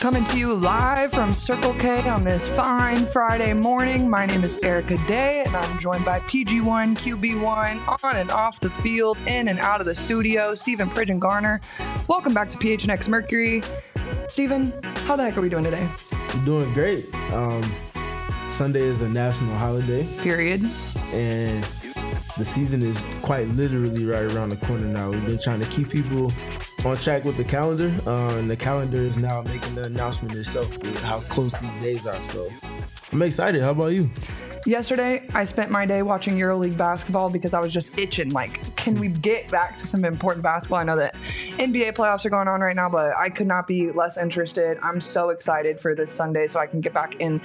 coming to you live from Circle K on this fine Friday morning. My name is Erica Day, and I'm joined by PG1, QB1, on and off the field, in and out of the studio, Stephen Pridgeon Garner. Welcome back to PHNX Mercury. Stephen, how the heck are we doing today? We're doing great. Sunday is a national holiday. Period. And the season is quite literally right around the corner now. We've been trying to keep people on track with the calendar, and the calendar is now making the announcement itself with how close these days are. So I'm excited. How about you? Yesterday, I spent my day watching EuroLeague basketball because I was just itching. Like, can we get back to some important basketball? I know that NBA playoffs are going on right now, but I could not be less interested. I'm so excited for this Sunday so I can get back in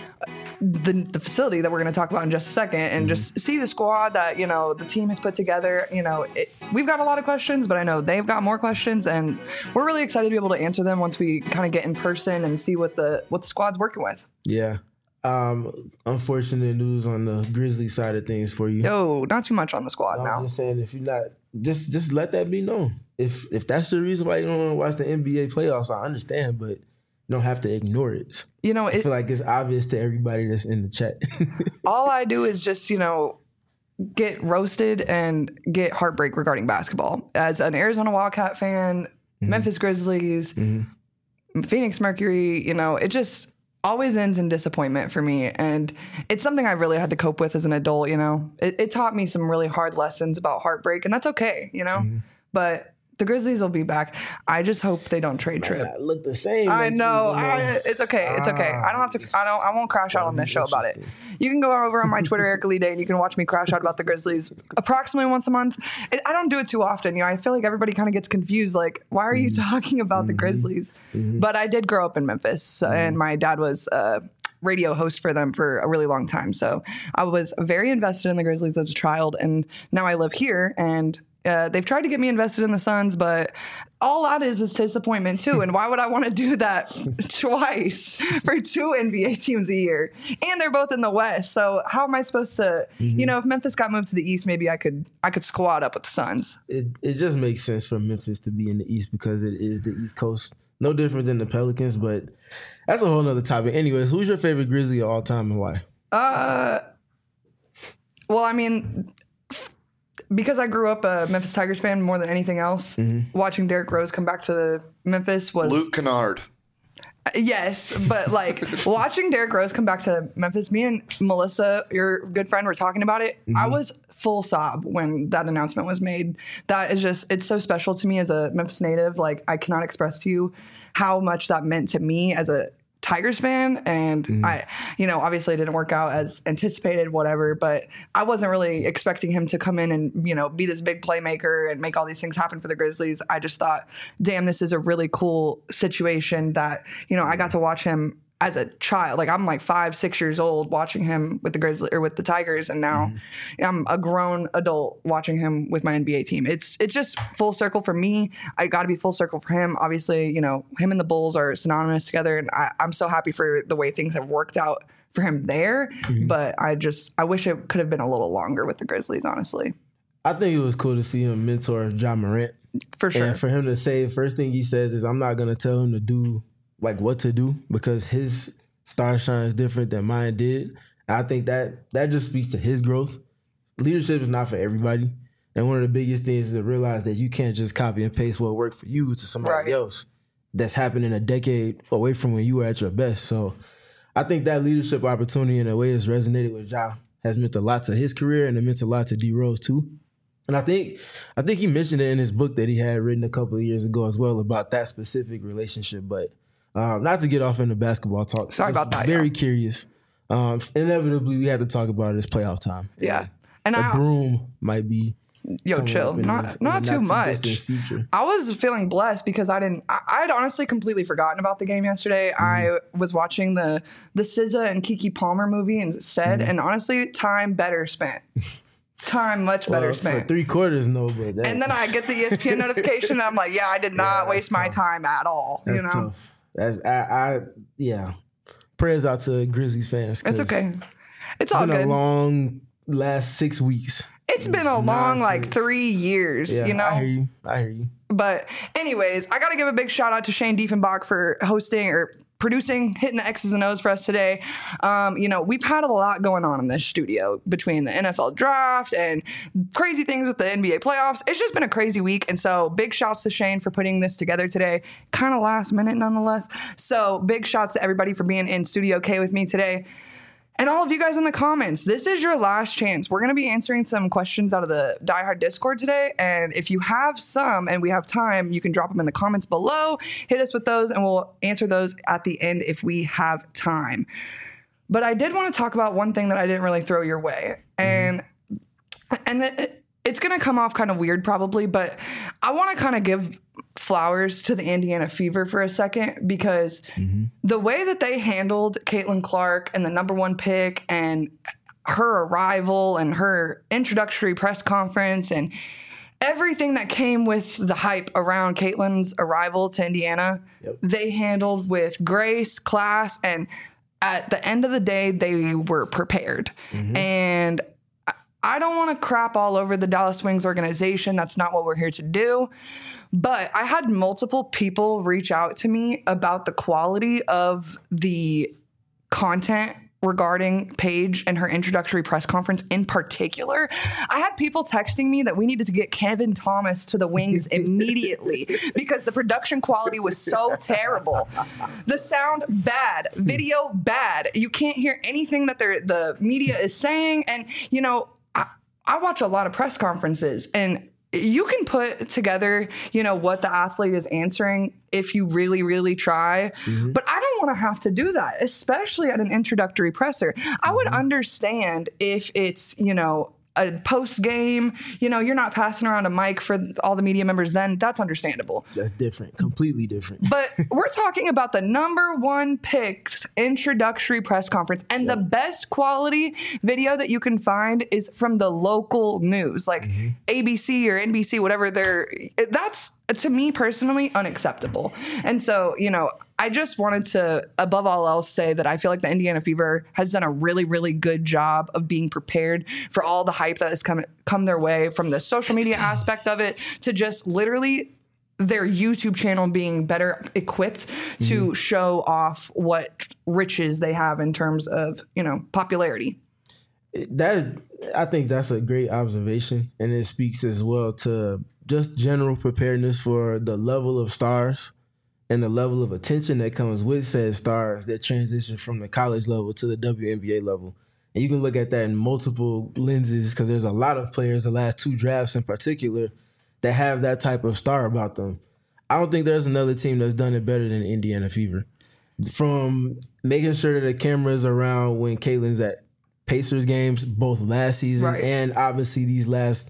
the facility that we're going to talk about in just a second and just see the squad that, you know, the team has put together. You know, we've got a lot of questions, but I know they've got more questions, and we're really excited to be able to answer them once we kind of get in person and see what the squad's working with. Yeah. Unfortunate news on the Grizzlies side of things for you. No, not too much on the squad now. I'm just saying, if you're not, just let that be known. If that's the reason why you don't want to watch the NBA playoffs, I understand, but you don't have to ignore it. You know, I feel like it's obvious to everybody that's in the chat. All I do is just, you know, get roasted and get heartbreak regarding basketball. As an Arizona Wildcat fan, Memphis Grizzlies, Phoenix Mercury, you know, it just always ends in disappointment for me. And it's something I really had to cope with as an adult, you know. It taught me some really hard lessons about heartbreak, and that's okay, you know. But the Grizzlies will be back. I just hope they don't trade Tripp. Look the same. I know. It's okay. It's okay. I don't have to. I won't crash out on this show about it. You can go over on my Twitter, Erica Lee Day, and you can watch me crash out about the Grizzlies approximately once a month. I don't do it too often. You know, I feel like everybody kind of gets confused. Like, why are you talking about the Grizzlies? But I did grow up in Memphis, and my dad was radio host for them for a really long time. So I was very invested in the Grizzlies as a child, and now I live here, and they've tried to get me invested in the Suns, but all that is disappointment too. And why would I want to do that twice for two NBA teams a year? And they're both in the West. So how am I supposed to, you know, if Memphis got moved to the East, maybe I could squad up with the Suns. It just makes sense for Memphis to be in the East because it is the East Coast. No different than the Pelicans, but that's a whole nother topic. Anyways, who's your favorite Grizzly of all time and why? Well, I mean, because I grew up a Memphis Tigers fan more than anything else, watching Derrick Rose come back to Memphis was... Luke Kennard. Yes, but like watching Derrick Rose come back to Memphis, me and Melissa, your good friend, were talking about it. I was full sob when that announcement was made. That is just, it's so special to me as a Memphis native. Like, I cannot express to you how much that meant to me as a Tigers fan, and I, you know, obviously it didn't work out as anticipated, whatever, but I wasn't really expecting him to come in and, you know, be this big playmaker and make all these things happen for the Grizzlies. I just thought, damn, this is a really cool situation that, you know, I got to watch him as a child. Like, I'm like 5-6 years old watching him with the Grizzlies or with the Tigers, and now I'm a grown adult watching him with my NBA team. It's just full circle for me. I got to be full circle for him. Obviously, you know, him and the Bulls are synonymous together, and I'm so happy for the way things have worked out for him there. But I wish it could have been a little longer with the Grizzlies, honestly. I think it was cool to see him mentor Ja Morant. For sure. And for him to say, first thing he says is, I'm not going to tell him to do like what to do because his star shine is different than mine did. And I think that just speaks to his growth. Leadership is not for everybody. And one of the biggest things is to realize that you can't just copy and paste what worked for you to somebody else that's happening a decade away from when you were at your best. So I think that leadership opportunity in a way has resonated with Ja, has meant a lot to his career, and it meant a lot to D Rose too. And I think he mentioned it in his book that he had written a couple of years ago as well about that specific relationship. But not to get off into basketball talk. Sorry about that. Very curious. Inevitably, we had to talk about it. It's playoff time. Yeah. And a broom might be... Yo, chill. Not too much. I was feeling blessed because I'd honestly completely forgotten about the game yesterday. I was watching the SZA and Keke Palmer movie instead. And honestly, time better spent. Time much better spent. For 3 quarters, no, but and then I get the ESPN notification, and I'm like, yeah, I did not waste my time at all. That's you know, tough. That's Prayers out to Grizzlies fans. It's okay. It's all good. It's been a long last 6 weeks. It's been a long, like, 3 years, yeah, you know? I hear you. But anyways, I got to give a big shout out to Shane Diefenbach for hosting or producing, hitting the X's and O's for us today. We've had a lot going on in this studio between the NFL draft and crazy things with the NBA playoffs. It's just been a crazy week. And so big shouts to Shane for putting this together today. Kind of last minute nonetheless. So big shouts to everybody for being in Studio K with me today. And all of you guys in the comments, this is your last chance. We're going to be answering some questions out of the Die Hard Discord today. And if you have some and we have time, you can drop them in the comments below. Hit us with those and we'll answer those at the end if we have time. But I did want to talk about one thing that I didn't really throw your way. And it's going to come off kind of weird probably, but I want to kind of give flowers to the Indiana Fever for a second because the way that they handled Caitlin Clark and the number 1 pick and her arrival and her introductory press conference and everything that came with the hype around Caitlin's arrival to Indiana, they handled with grace, class, and at the end of the day, they were prepared. And I don't want to crap all over the Dallas Wings organization. That's not what we're here to do. But I had multiple people reach out to me about the quality of the content regarding Paige and her introductory press conference in particular. I had people texting me that we needed to get Kevin Thomas to the Wings immediately because the production quality was so terrible. The sound bad, video bad. You can't hear anything that the media is saying. And, I watch a lot of press conferences and you can put together, what the athlete is answering if you really, really try. But I don't want to have to do that, especially at an introductory presser. I would understand if it's, a post game, you're not passing around a mic for all the media members, then that's understandable. That's different, completely different. But we're talking about the number 1 pick's introductory press conference, and the best quality video that you can find is from the local news, like ABC or NBC, whatever. That's, to me personally, unacceptable. And so, I just wanted to, above all else, say that I feel like the Indiana Fever has done a really, really good job of being prepared for all the hype that has come their way, from the social media aspect of it to just literally their YouTube channel being better equipped to show off what riches they have in terms of, popularity. I think that's a great observation, and it speaks as well to just general preparedness for the level of stars and the level of attention that comes with said stars that transition from the college level to the WNBA level. And you can look at that in multiple lenses because there's a lot of players, the last 2 drafts in particular, that have that type of star about them. I don't think there's another team that's done it better than Indiana Fever. From making sure that the camera's around when Caitlin's at Pacers games, both last season and obviously this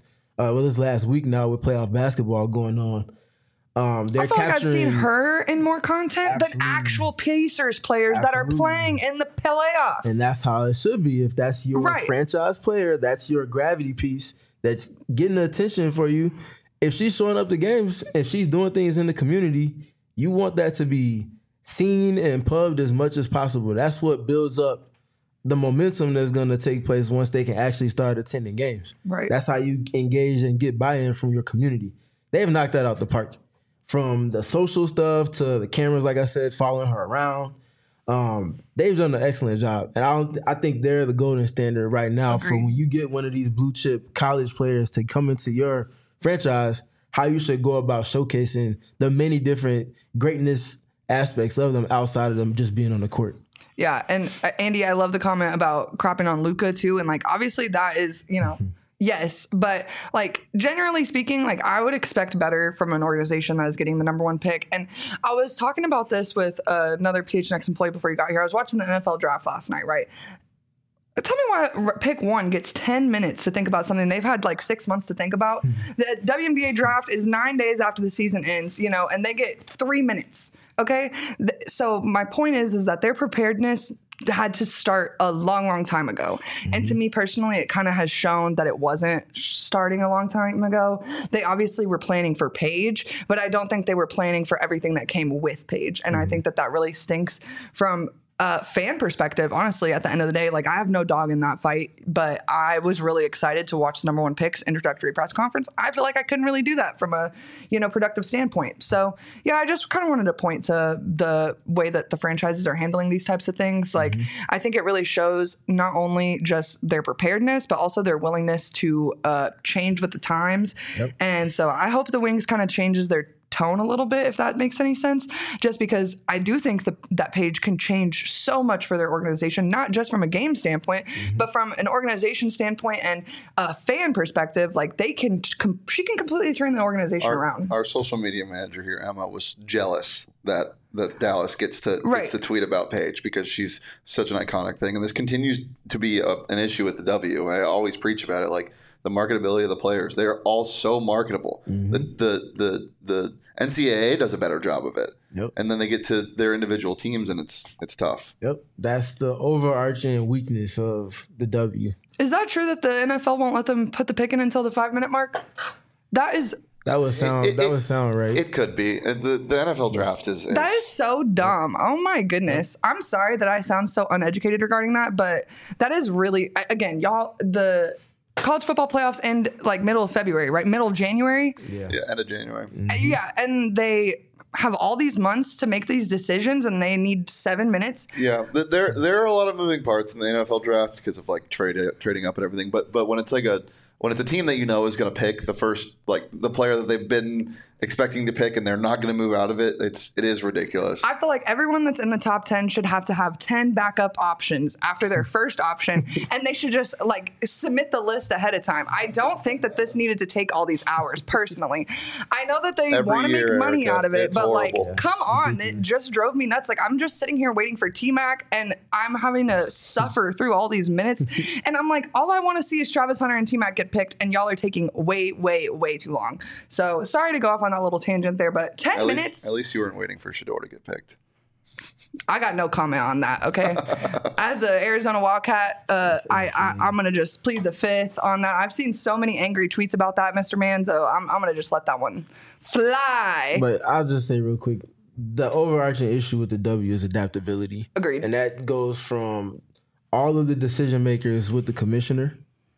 last week now with playoff basketball going on. I feel like I've seen her in more content than actual Pacers players that are playing in the playoffs. And that's how it should be. If that's your franchise player, that's your gravity piece that's getting the attention for you. If she's showing up to games, if she's doing things in the community, you want that to be seen and pubbed as much as possible. That's what builds up the momentum that's going to take place once they can actually start attending games. Right. That's how you engage and get buy-in from your community. They've knocked that out the park. From the social stuff to the cameras, like I said, following her around. They've done an excellent job. And I think they're the golden standard right now for when you get one of these blue chip college players to come into your franchise, how you should go about showcasing the many different greatness aspects of them outside of them just being on the court. Yeah. And Andy, I love the comment about cropping on Luka too. And obviously that is, yes, but generally speaking, I would expect better from an organization that is getting the number 1 pick. And I was talking about this with another PHNX employee before you got here. I was watching the NFL draft last night, right? Tell me why pick 1 gets 10 minutes to think about something they've had 6 months to think about. The WNBA draft is 9 days after the season ends, and they get 3 minutes. Okay. So my point is that their preparedness had to start a long, long time ago. And to me personally, it kind of has shown that it wasn't starting a long time ago. They obviously were planning for Paige, but I don't think they were planning for everything that came with Paige. And I think that really stinks from fan perspective, honestly, at the end of the day, like, I have no dog in that fight, but I was really excited to watch the number one picks introductory press conference. I feel like I couldn't really do that from a, productive standpoint. So yeah, I just kind of wanted to point to the way that the franchises are handling these types of things. Like, I think it really shows not only just their preparedness, but also their willingness to change with the times. Yep. And so I hope the Wings kind of changes their tone a little bit, if that makes any sense, just because I do think that page can change so much for their organization, not just from a game standpoint, but from an organization standpoint and a fan perspective. Like, she can completely turn the organization around. Our social media manager here, Emma, was jealous that Dallas gets to tweet about Paige because she's such an iconic thing, and this continues to be an issue with the W. I always preach about it, like the marketability of the players. They are all so marketable. The NCAA does a better job of it. Yep. And then they get to their individual teams, and it's tough. Yep. That's the overarching weakness of the W. Is that true that the NFL won't let them put the pick in until the 5-minute mark? That would sound right. It could be. The NFL draft is that is so dumb. Oh my goodness. I'm sorry that I sound so uneducated regarding that, but that is really, again, y'all, the college football playoffs end like middle of February, right? Middle of January. Yeah, end of January. Yeah, and they have all these months to make these decisions, and they need 7 minutes. Yeah, there are a lot of moving parts in the NFL draft because of like trading up and everything. But when it's like when it's a team that is going to pick the first, like the player that they've been expecting to pick, and they're not going to move out of it, it is ridiculous. I feel like everyone that's in the top 10 should have to have 10 backup options after their first option, and they should just like submit the list ahead of time. I don't think that this needed to take all these hours, personally. I know that they want to make money out of it, but horrible. Like, come on, it just drove me nuts. Like, I'm just sitting here waiting for T-Mac, and I'm having to suffer through all these minutes, and I'm like, all I want to see is Travis Hunter and T-Mac get picked, and y'all are taking way, way, way too long. So sorry to go off on that little tangent there, but 10 minutes. At least you weren't waiting for Shedeur to get picked. I got no comment on that, okay? As an Arizona Wildcat, I'm going to just plead the fifth on that. I've seen so many angry tweets about that, Mr. Man, so I'm going to just let that one fly. But I'll just say real quick, the overarching issue with the W is adaptability. Agreed. And that goes from all of the decision makers with the commissioner,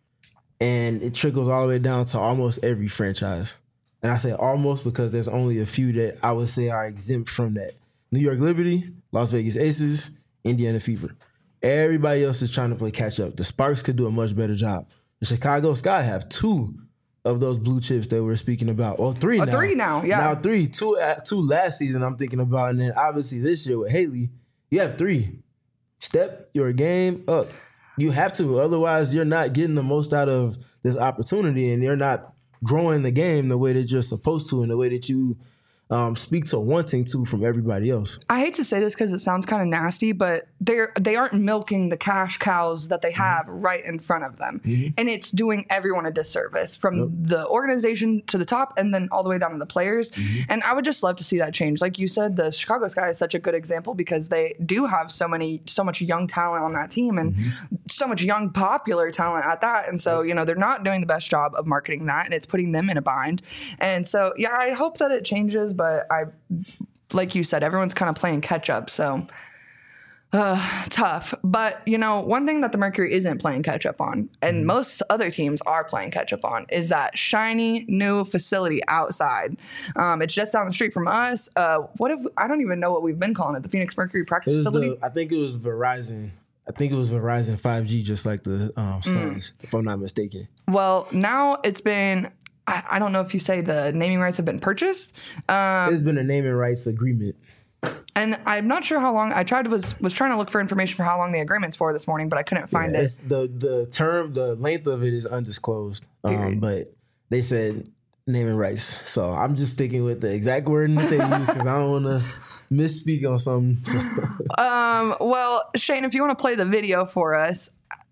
and it trickles all the way down to almost every franchise. And I say almost because there's only a few that I would say are exempt from that. New York Liberty, Las Vegas Aces, Indiana Fever. Everybody else is trying to play catch up. The Sparks could do a much better job. The Chicago Sky have 2 of those blue chips that we're speaking about. Or 3 now. 3 now, yeah. Now 3. 2 last season I'm thinking about. And then obviously this year with Haley, you have 3. Step your game up. You have to. Otherwise, you're not getting the most out of this opportunity, and you're not growing the game the way that you're supposed to, and the way that you speak to wanting to from everybody else. I hate to say this because it sounds kind of nasty, but they aren't milking the cash cows that they have right in front of them. And it's doing everyone a disservice, from the organization to the top and then all the way down to the players. And I would just love to see that change. Like you said, the Chicago Sky is such a good example because they do have so much young talent on that team, and so much young popular talent at that. And so, they're not doing the best job of marketing that, and it's putting them in a bind. And so, yeah, I hope that it changes, but like you said, everyone's kind of playing catch up. So tough. But, one thing that the Mercury isn't playing catch up on, and most other teams are playing catch up on, is that shiny new facility outside. It's just down the street from us. I don't even know what we've been calling it. The Phoenix Mercury practice facility. I think it was Verizon. 5G, just like the Suns, if I'm not mistaken. Well, now it's been, I don't know if you say the naming rights have been purchased. There's been a naming rights agreement. And I'm not sure how long. I was trying to look for information for how long the agreement's for this morning, but I couldn't find it. The length of it is undisclosed. But they said naming rights. So I'm just sticking with the exact wording that they use because I don't want to misspeak on something. So. Well, Shane, if you want to play the video for us.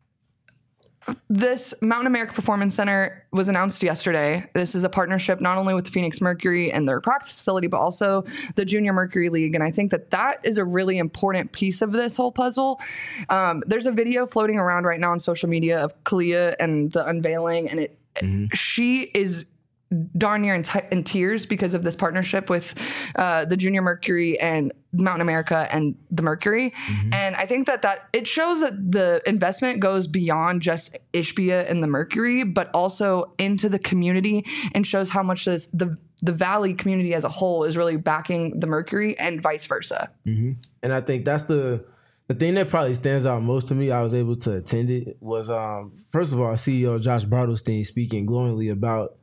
This Mountain America Performance Center was announced yesterday. This is a partnership not only with the Phoenix Mercury and their practice facility, but also the Junior Mercury League. And I think that is a really important piece of this whole puzzle. There's a video floating around right now on social media of Kalia and the unveiling, and she is darn near in tears because of this partnership with the Junior Mercury and Mountain America and the Mercury. And I think that it shows that the investment goes beyond just Ishbia and the Mercury, but also into the community, and shows how much the Valley community as a whole is really backing the Mercury and vice versa. And I think that's the thing that probably stands out most to me. I was able to attend it was, first of all, CEO Josh Bartelstein speaking glowingly about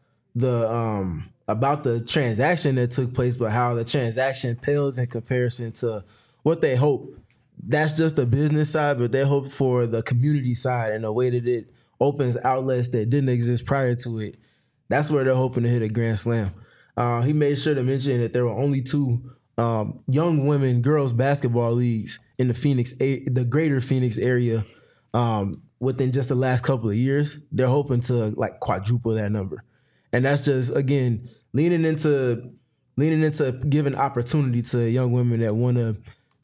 the transaction that took place, but how the transaction pales in comparison to what they hope. That's just the business side, but they hope for the community side and the way that it opens outlets that didn't exist prior to it. That's where they're hoping to hit a grand slam. He made sure to mention that there were only 2 young women girls basketball leagues in the greater Phoenix area within just the last couple of years. They're hoping to like quadruple that number. And that's just, again, leaning into giving opportunity to young women that want to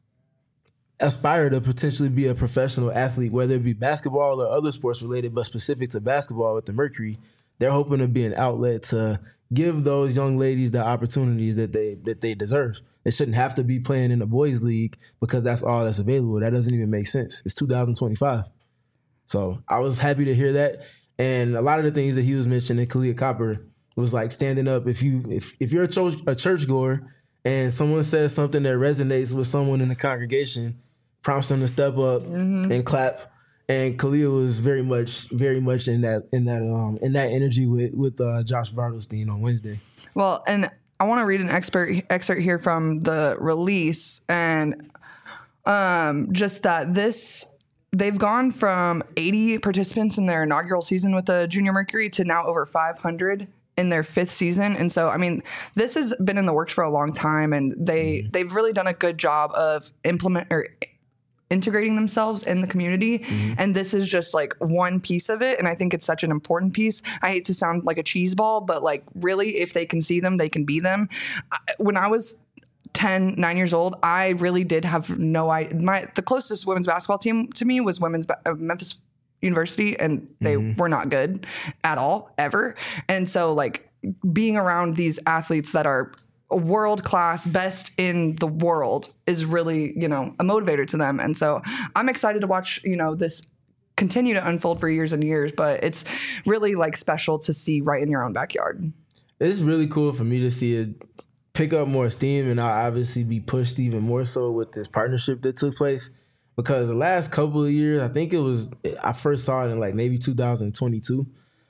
aspire to potentially be a professional athlete, whether it be basketball or other sports related, but specific to basketball with the Mercury. They're hoping to be an outlet to give those young ladies the opportunities that they deserve. They shouldn't have to be playing in the boys' league because that's all that's available. That doesn't even make sense. It's 2025. So I was happy to hear that. And a lot of the things that he was mentioning, Kalia Copper, was like standing up. If you're a churchgoer and someone says something that resonates with someone in the congregation, prompts them to step up and clap. And Kalia was very much in that energy with Josh Bartelstein on Wednesday. Well, and I want to read an excerpt here from the release, and just that they've gone from 80 participants in their inaugural season with the Junior Mercury to now over 500 in their 5th season. And so, I mean, this has been in the works for a long time, and they've really done a good job of integrating themselves in the community. And this is just like one piece of it. And I think it's such an important piece. I hate to sound like a cheese ball, but like really, if they can see them, they can be them. When I was 9 years old, I really did have no idea. The closest women's basketball team to me was Memphis University, and they were not good at all, ever. And so like being around these athletes that are world class, best in the world, is really, a motivator to them. And so I'm excited to watch, this continue to unfold for years and years, but it's really like special to see right in your own backyard. It's really cool for me to see it pick up more steam, and I'll obviously be pushed even more so with this partnership that took place, because the last couple of years, I first saw it in like maybe 2022.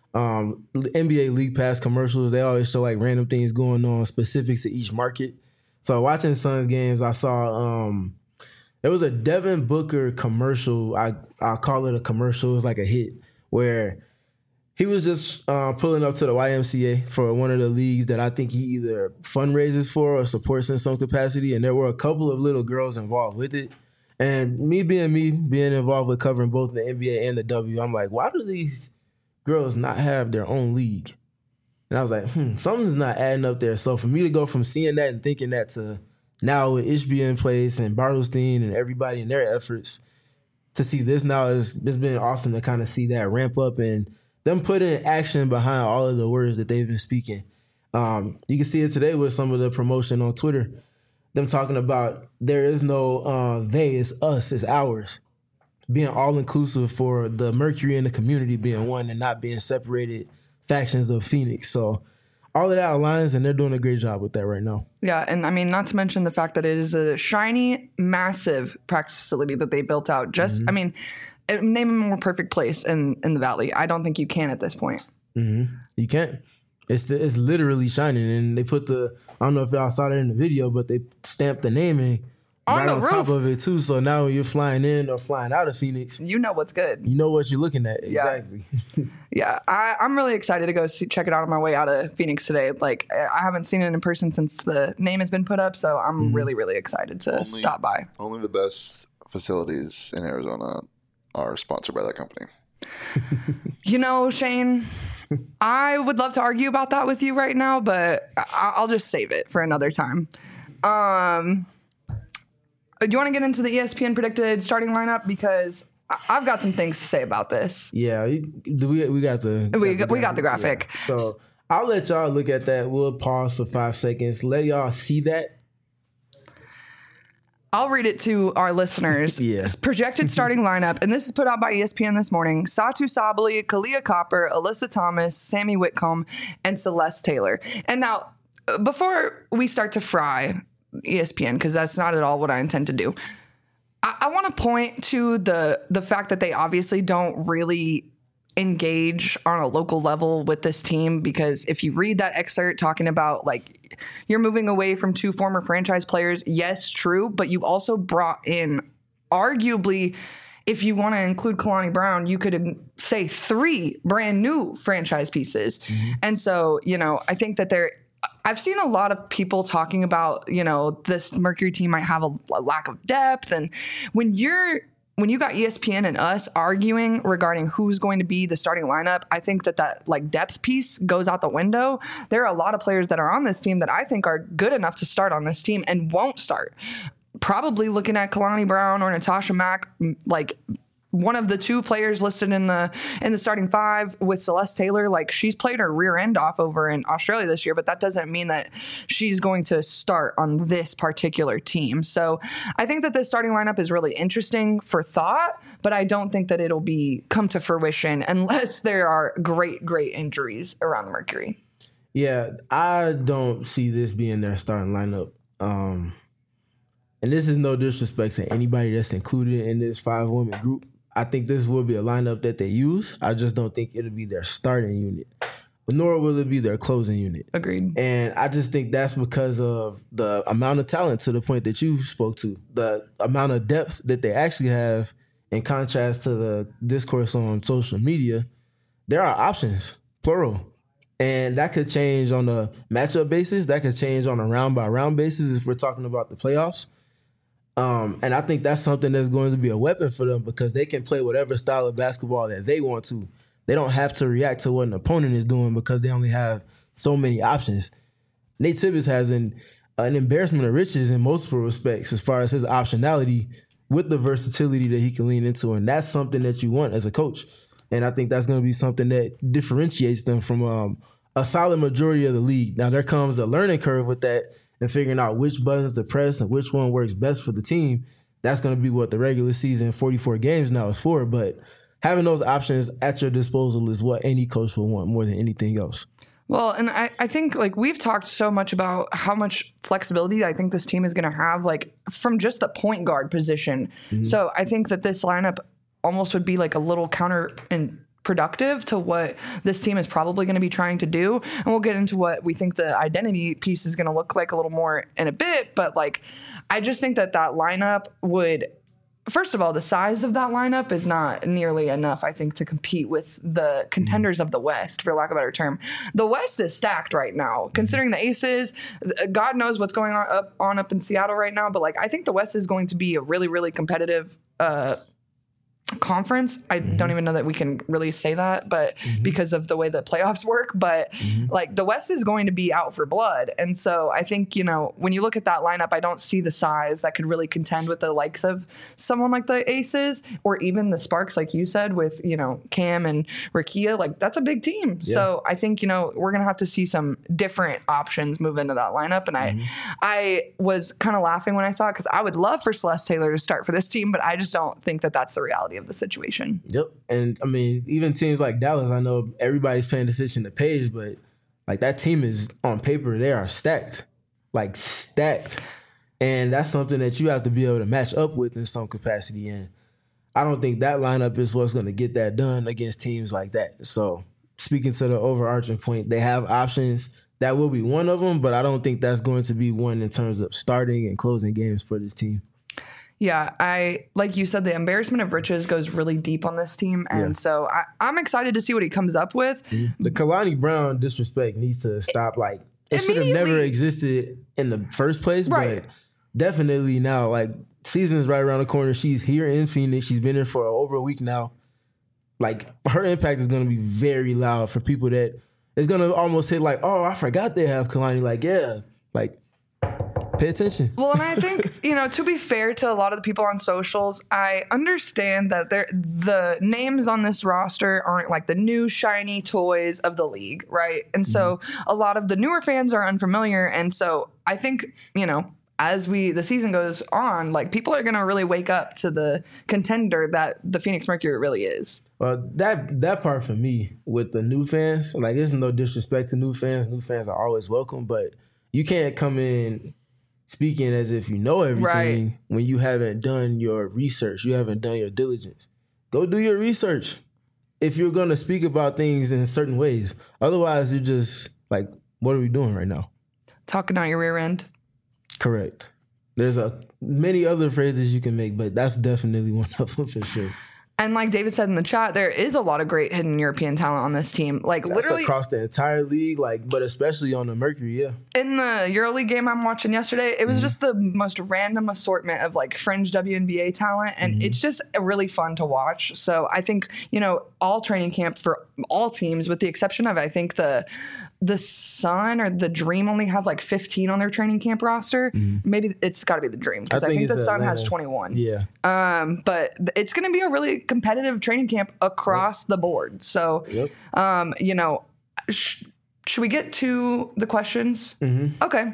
NBA League Pass commercials, they always show like random things going on specific to each market. So watching Suns games, I saw there was a Devin Booker commercial. I'll call it a commercial. It was like a hit where he was just pulling up to the YMCA for one of the leagues that I think he either fundraises for or supports in some capacity. And there were a couple of little girls involved with it. And me being involved with covering both the NBA and the W, I'm like, why do these girls not have their own league? And I was like, something's not adding up there. So for me to go from seeing that and thinking that to now with Ishbia in place and Bartelstein and everybody in their efforts to see this now, it's been awesome to kind of see that ramp up and them put in action behind all of the words that they've been speaking. You can see it today with some of the promotion on Twitter. Them talking about there is no they, it's us, it's ours. Being all-inclusive for the Mercury and the community being one and not being separated factions of Phoenix. So all of that aligns, and they're doing a great job with that right now. Yeah, and I mean, not to mention the fact that it is a shiny, massive practice facility that they built out. I mean, name a more perfect place in the Valley. I don't think you can at this point. You can't. It's literally shining, and they put I don't know if y'all saw that in the video, but they stamped the naming right on top of it too. So now when you're flying in or flying out of Phoenix, you know what's good. You know what you're looking at. Exactly. Yeah, I'm really excited to go check it out on my way out of Phoenix today. Like, I haven't seen it in person since the name has been put up, so I'm really, really excited to stop by. Only the best facilities in Arizona are sponsored by that company. Shane, I would love to argue about that with you right now, but I'll just save it for another time. Do you want to get into the ESPN predicted starting lineup? Because I've got some things to say about this. Yeah, we got the graphic. Yeah. So I'll let y'all look at that. We'll pause for 5 seconds. Let y'all see that. I'll read it to our listeners. Yeah. Projected starting lineup, and this is put out by ESPN this morning. Satu Sabali, Kalia Copper, Alyssa Thomas, Sammy Whitcomb, and Celeste Taylor. And now, before we start to fry ESPN, because that's not at all what I intend to do, I want to point to the fact that they obviously don't really engage on a local level with this team, because if you read that excerpt talking about like you're moving away from 2 former franchise players, yes, true, but you also brought in arguably, if you want to include Kalani Brown, you could say 3 brand new franchise pieces. Mm-hmm. And so, I think that I've seen a lot of people talking about, this Mercury team might have a lack of depth. And when you got ESPN and us arguing regarding who's going to be the starting lineup, I think that like depth piece goes out the window. There are a lot of players that are on this team that I think are good enough to start on this team and won't start. Probably looking at Kalani Brown or Natasha Mack, like one of the 2 players listed in the starting 5 with Celeste Taylor. Like, she's played her rear end off over in Australia this year, but that doesn't mean that she's going to start on this particular team. So I think that this starting lineup is really interesting for thought, but I don't think that it'll come to fruition unless there are great injuries around the Mercury. Yeah, I don't see this being their starting lineup. And this is no disrespect to anybody that's included in this 5-woman group. I think this will be a lineup that they use. I just don't think it'll be their starting unit, nor will it be their closing unit. Agreed. And I just think that's because of the amount of talent, to the point that you spoke to, the amount of depth that they actually have in contrast to the discourse on social media. There are options, plural. And that could change on a matchup basis. That could change on a round-by-round basis if we're talking about the playoffs. And I think that's something that's going to be a weapon for them, because they can play whatever style of basketball that they want to. They don't have to react to what an opponent is doing because they only have so many options. Nate Tibbetts has an embarrassment of riches in multiple respects as far as his optionality with the versatility that he can lean into. And that's something that you want as a coach. And I think that's going to be something that differentiates them from a solid majority of the league. Now, there comes a learning curve with that, and figuring out which buttons to press and which one works best for the team. That's going to be what the regular season, 44 games now, is for. But having those options at your disposal is what any coach will want more than anything else. Well, and I think, like, we've talked so much about how much flexibility I think this team is going to have, like, from just the point guard position. Mm-hmm. So I think that this lineup almost would be like a little counterproductive to what this team is probably going to be trying to do. And we'll get into what we think the identity piece is going to look like a little more in a bit. But, like, I just think that lineup would, first of all, the size of that lineup is not nearly enough, I think, to compete with the contenders of the West, for lack of a better term. The West is stacked right now, considering the Aces. God knows what's going on up in Seattle right now. But, like, I think the West is going to be a really, really competitive conference. I don't even know that we can really say that, but because of the way the playoffs work, but like the West is going to be out for blood. And so I think, when you look at that lineup, I don't see the size that could really contend with the likes of someone like the Aces or even the Sparks, like you said, with, Cam and Rakia. Like, that's a big team. Yeah. So I think, we're going to have to see some different options move into that lineup. And I was kind of laughing when I saw it, because I would love for Celeste Taylor to start for this team, but I just don't think that that's the reality of the situation. Yep. And I mean, even teams like Dallas, I know everybody's paying attention to Paige, but like that team is on paper, they are stacked. Like stacked. And that's something that you have to be able to match up with in some capacity. And I don't think that lineup is what's going to get that done against teams like that. So speaking to the overarching point, they have options. That will be one of them, but I don't think that's going to be one in terms of starting and closing games for this team. Yeah, like you said, the embarrassment of riches goes really deep on this team. And so I'm excited to see what he comes up with. The Kalani Brown disrespect needs to stop. Like, it should have never existed in the first place, but definitely now, like, season's right around the corner. She's here in Phoenix. She's been here for over a week now. Like, her impact is going to be very loud for people that it's going to almost hit like, oh, I forgot they have Kalani. Like, yeah, like, pay attention. Well, and I think, to be fair to a lot of the people on socials, I understand that the names on this roster aren't like the new shiny toys of the league, right? And so a lot of the newer fans are unfamiliar. And so I think, as the season goes on, like people are going to really wake up to the contender that the Phoenix Mercury really is. Well, that part for me with the new fans, like there's no disrespect to new fans. New fans are always welcome, but you can't come in speaking as if you know everything when you haven't done your research. You haven't done your diligence. Go do your research if you're going to speak about things in certain ways. Otherwise, you're just like, what are we doing right now? Talking out your rear end. Correct. There's many other phrases you can make, but that's definitely one of them for sure. And like David said in the chat, there is a lot of great hidden European talent on this team. Like that's literally across the entire league, but especially on the Mercury, yeah. In the EuroLeague game I'm watching yesterday, it was just the most random assortment of like fringe WNBA talent, and it's just really fun to watch. So I think, all training camp for all teams, with the exception of I think the Sun or the Dream only have like 15 on their training camp roster. Maybe it's got to be the Dream because I think the Sun has 21. Yeah. But it's going to be a really competitive training camp across the board. So, should we get to the questions? Okay.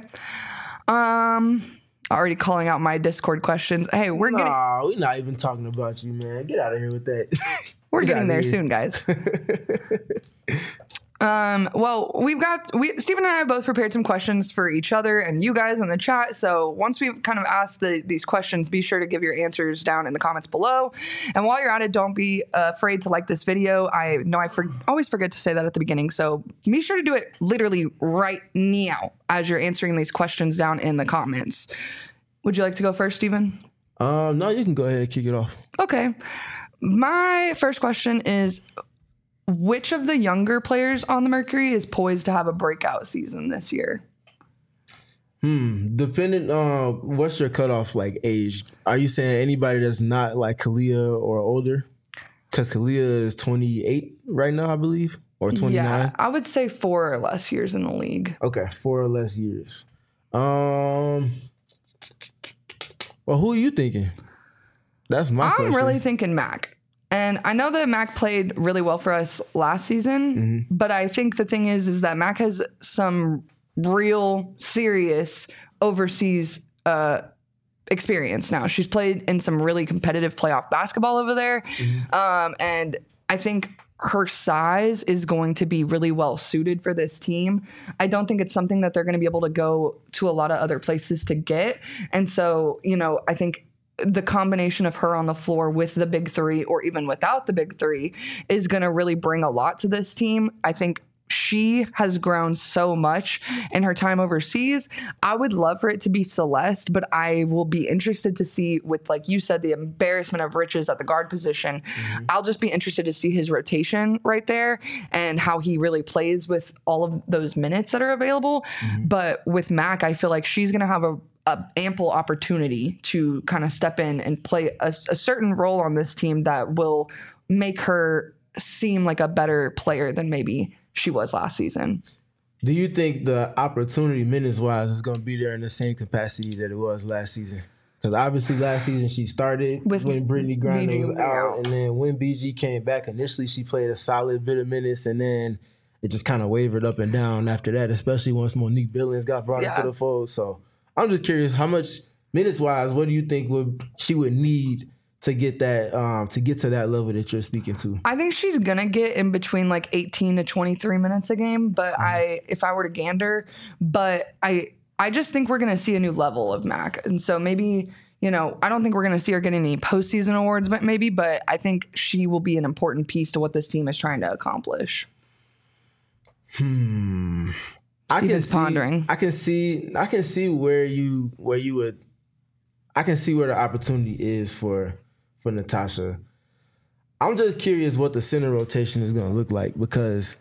Already calling out my Discord questions. Hey, we're not even talking about you, man. Get out of here with that. We're getting there soon, guys. Well, Stephen and I have both prepared some questions for each other and you guys in the chat. So once we've kind of asked these questions, be sure to give your answers down in the comments below. And while you're at it, don't be afraid to like this video. I know I always forget to say that at the beginning. So be sure to do it literally right now as you're answering these questions down in the comments. Would you like to go first, Stephen? No, you can go ahead and kick it off. Okay. My first question is, which of the younger players on the Mercury is poised to have a breakout season this year? Depending on what's your cutoff like age? Are you saying anybody that's not like Kalia or older? Because Kalia is 28 right now, I believe, or 29. Yeah, I would say 4 or less years in the league. Okay, 4 or less years. Well, who are you thinking? That's my question. I'm really thinking Mac. And I know that Mac played really well for us last season, but I think the thing is that Mac has some real serious overseas experience now. She's played in some really competitive playoff basketball over there. And I think her size is going to be really well suited for this team. I don't think it's something that they're going to be able to go to a lot of other places to get. And so, I think the combination of her on the floor with the big three or even without the big three is going to really bring a lot to this team. I think she has grown so much in her time overseas. I would love for it to be Celeste, but I will be interested to see, with, like you said, the embarrassment of riches at the guard position. I'll just be interested to see his rotation right there and how he really plays with all of those minutes that are available. But with Mac, I feel like she's going to have a ample opportunity to kind of step in and play a certain role on this team that will make her seem like a better player than maybe she was last season. Do you think the opportunity minutes-wise is going to be there in the same capacity that it was last season? Because obviously last season she started when Brittany Griner was out, and then when BG came back, initially she played a solid bit of minutes, and then it just kind of wavered up and down after that, especially once Monique Billings got brought into the fold. So I'm just curious, how much minutes-wise, what do you think she would need to get that to get to that level that you're speaking to? I think she's gonna get in between like 18 to 23 minutes a game, but if I were to gander, but I just think we're gonna see a new level of Mac, and so maybe I don't think we're gonna see her get any postseason awards, but I think she will be an important piece to what this team is trying to accomplish. Steven's pondering. I can see where the opportunity is for Natasha. I'm just curious what the center rotation is going to look like, because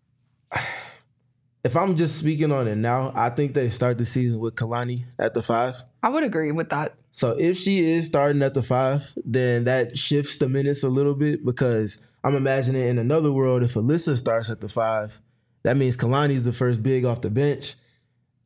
if I'm just speaking on it now, I think they start the season with Kalani at the 5. I would agree with that. So if she is starting at the 5, then that shifts the minutes a little bit, because I'm imagining in another world, if Alyssa starts at the 5, that means Kalani's the first big off the bench.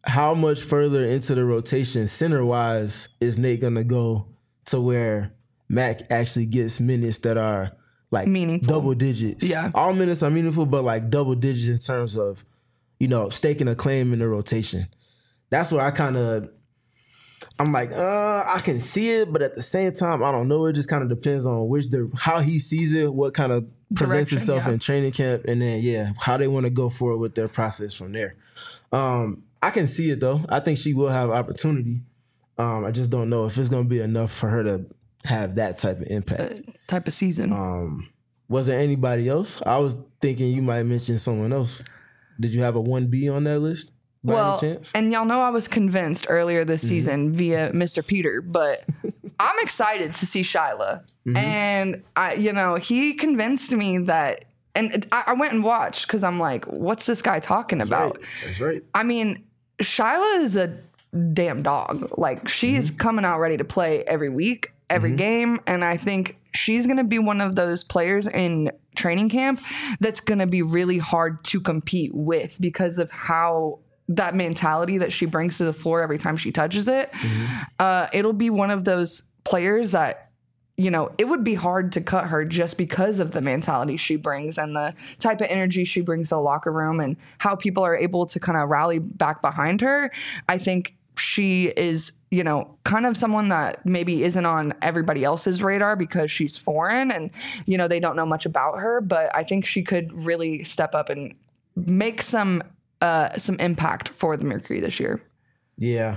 how much further into the rotation center-wise is Nate going to go to where Mac actually gets minutes that are like meaningful, double digits? Yeah. All minutes are meaningful, but like double digits in terms of, staking a claim in the rotation. That's where I'm like, I can see it, but at the same time, I don't know. It just kind of depends on how he sees it, what kind of presents itself in training camp, and then, how they want to go forward with their process from there. I can see it, though. I think she will have opportunity. I just don't know if it's going to be enough for her to have that type of impact. Type of season. Was there anybody else? I was thinking you might mention someone else. Did you have a 1B on that list? Well, and y'all know I was convinced earlier this season via Mr. Peter, but I'm excited to see Shyla. And he convinced me that, and I went and watched because I'm like, what's this guy talking about? That's right. I mean, Shyla is a damn dog. Like, she is coming out ready to play every week, every game, and I think she's going to be one of those players in training camp that's going to be really hard to compete with because of how that mentality that she brings to the floor every time she touches it. It'll be one of those players that, it would be hard to cut her just because of the mentality she brings and the type of energy she brings to the locker room and how people are able to kind of rally back behind her. I think she is, kind of someone that maybe isn't on everybody else's radar because she's foreign and, they don't know much about her, but I think she could really step up and make some impact for the Mercury this year. Yeah.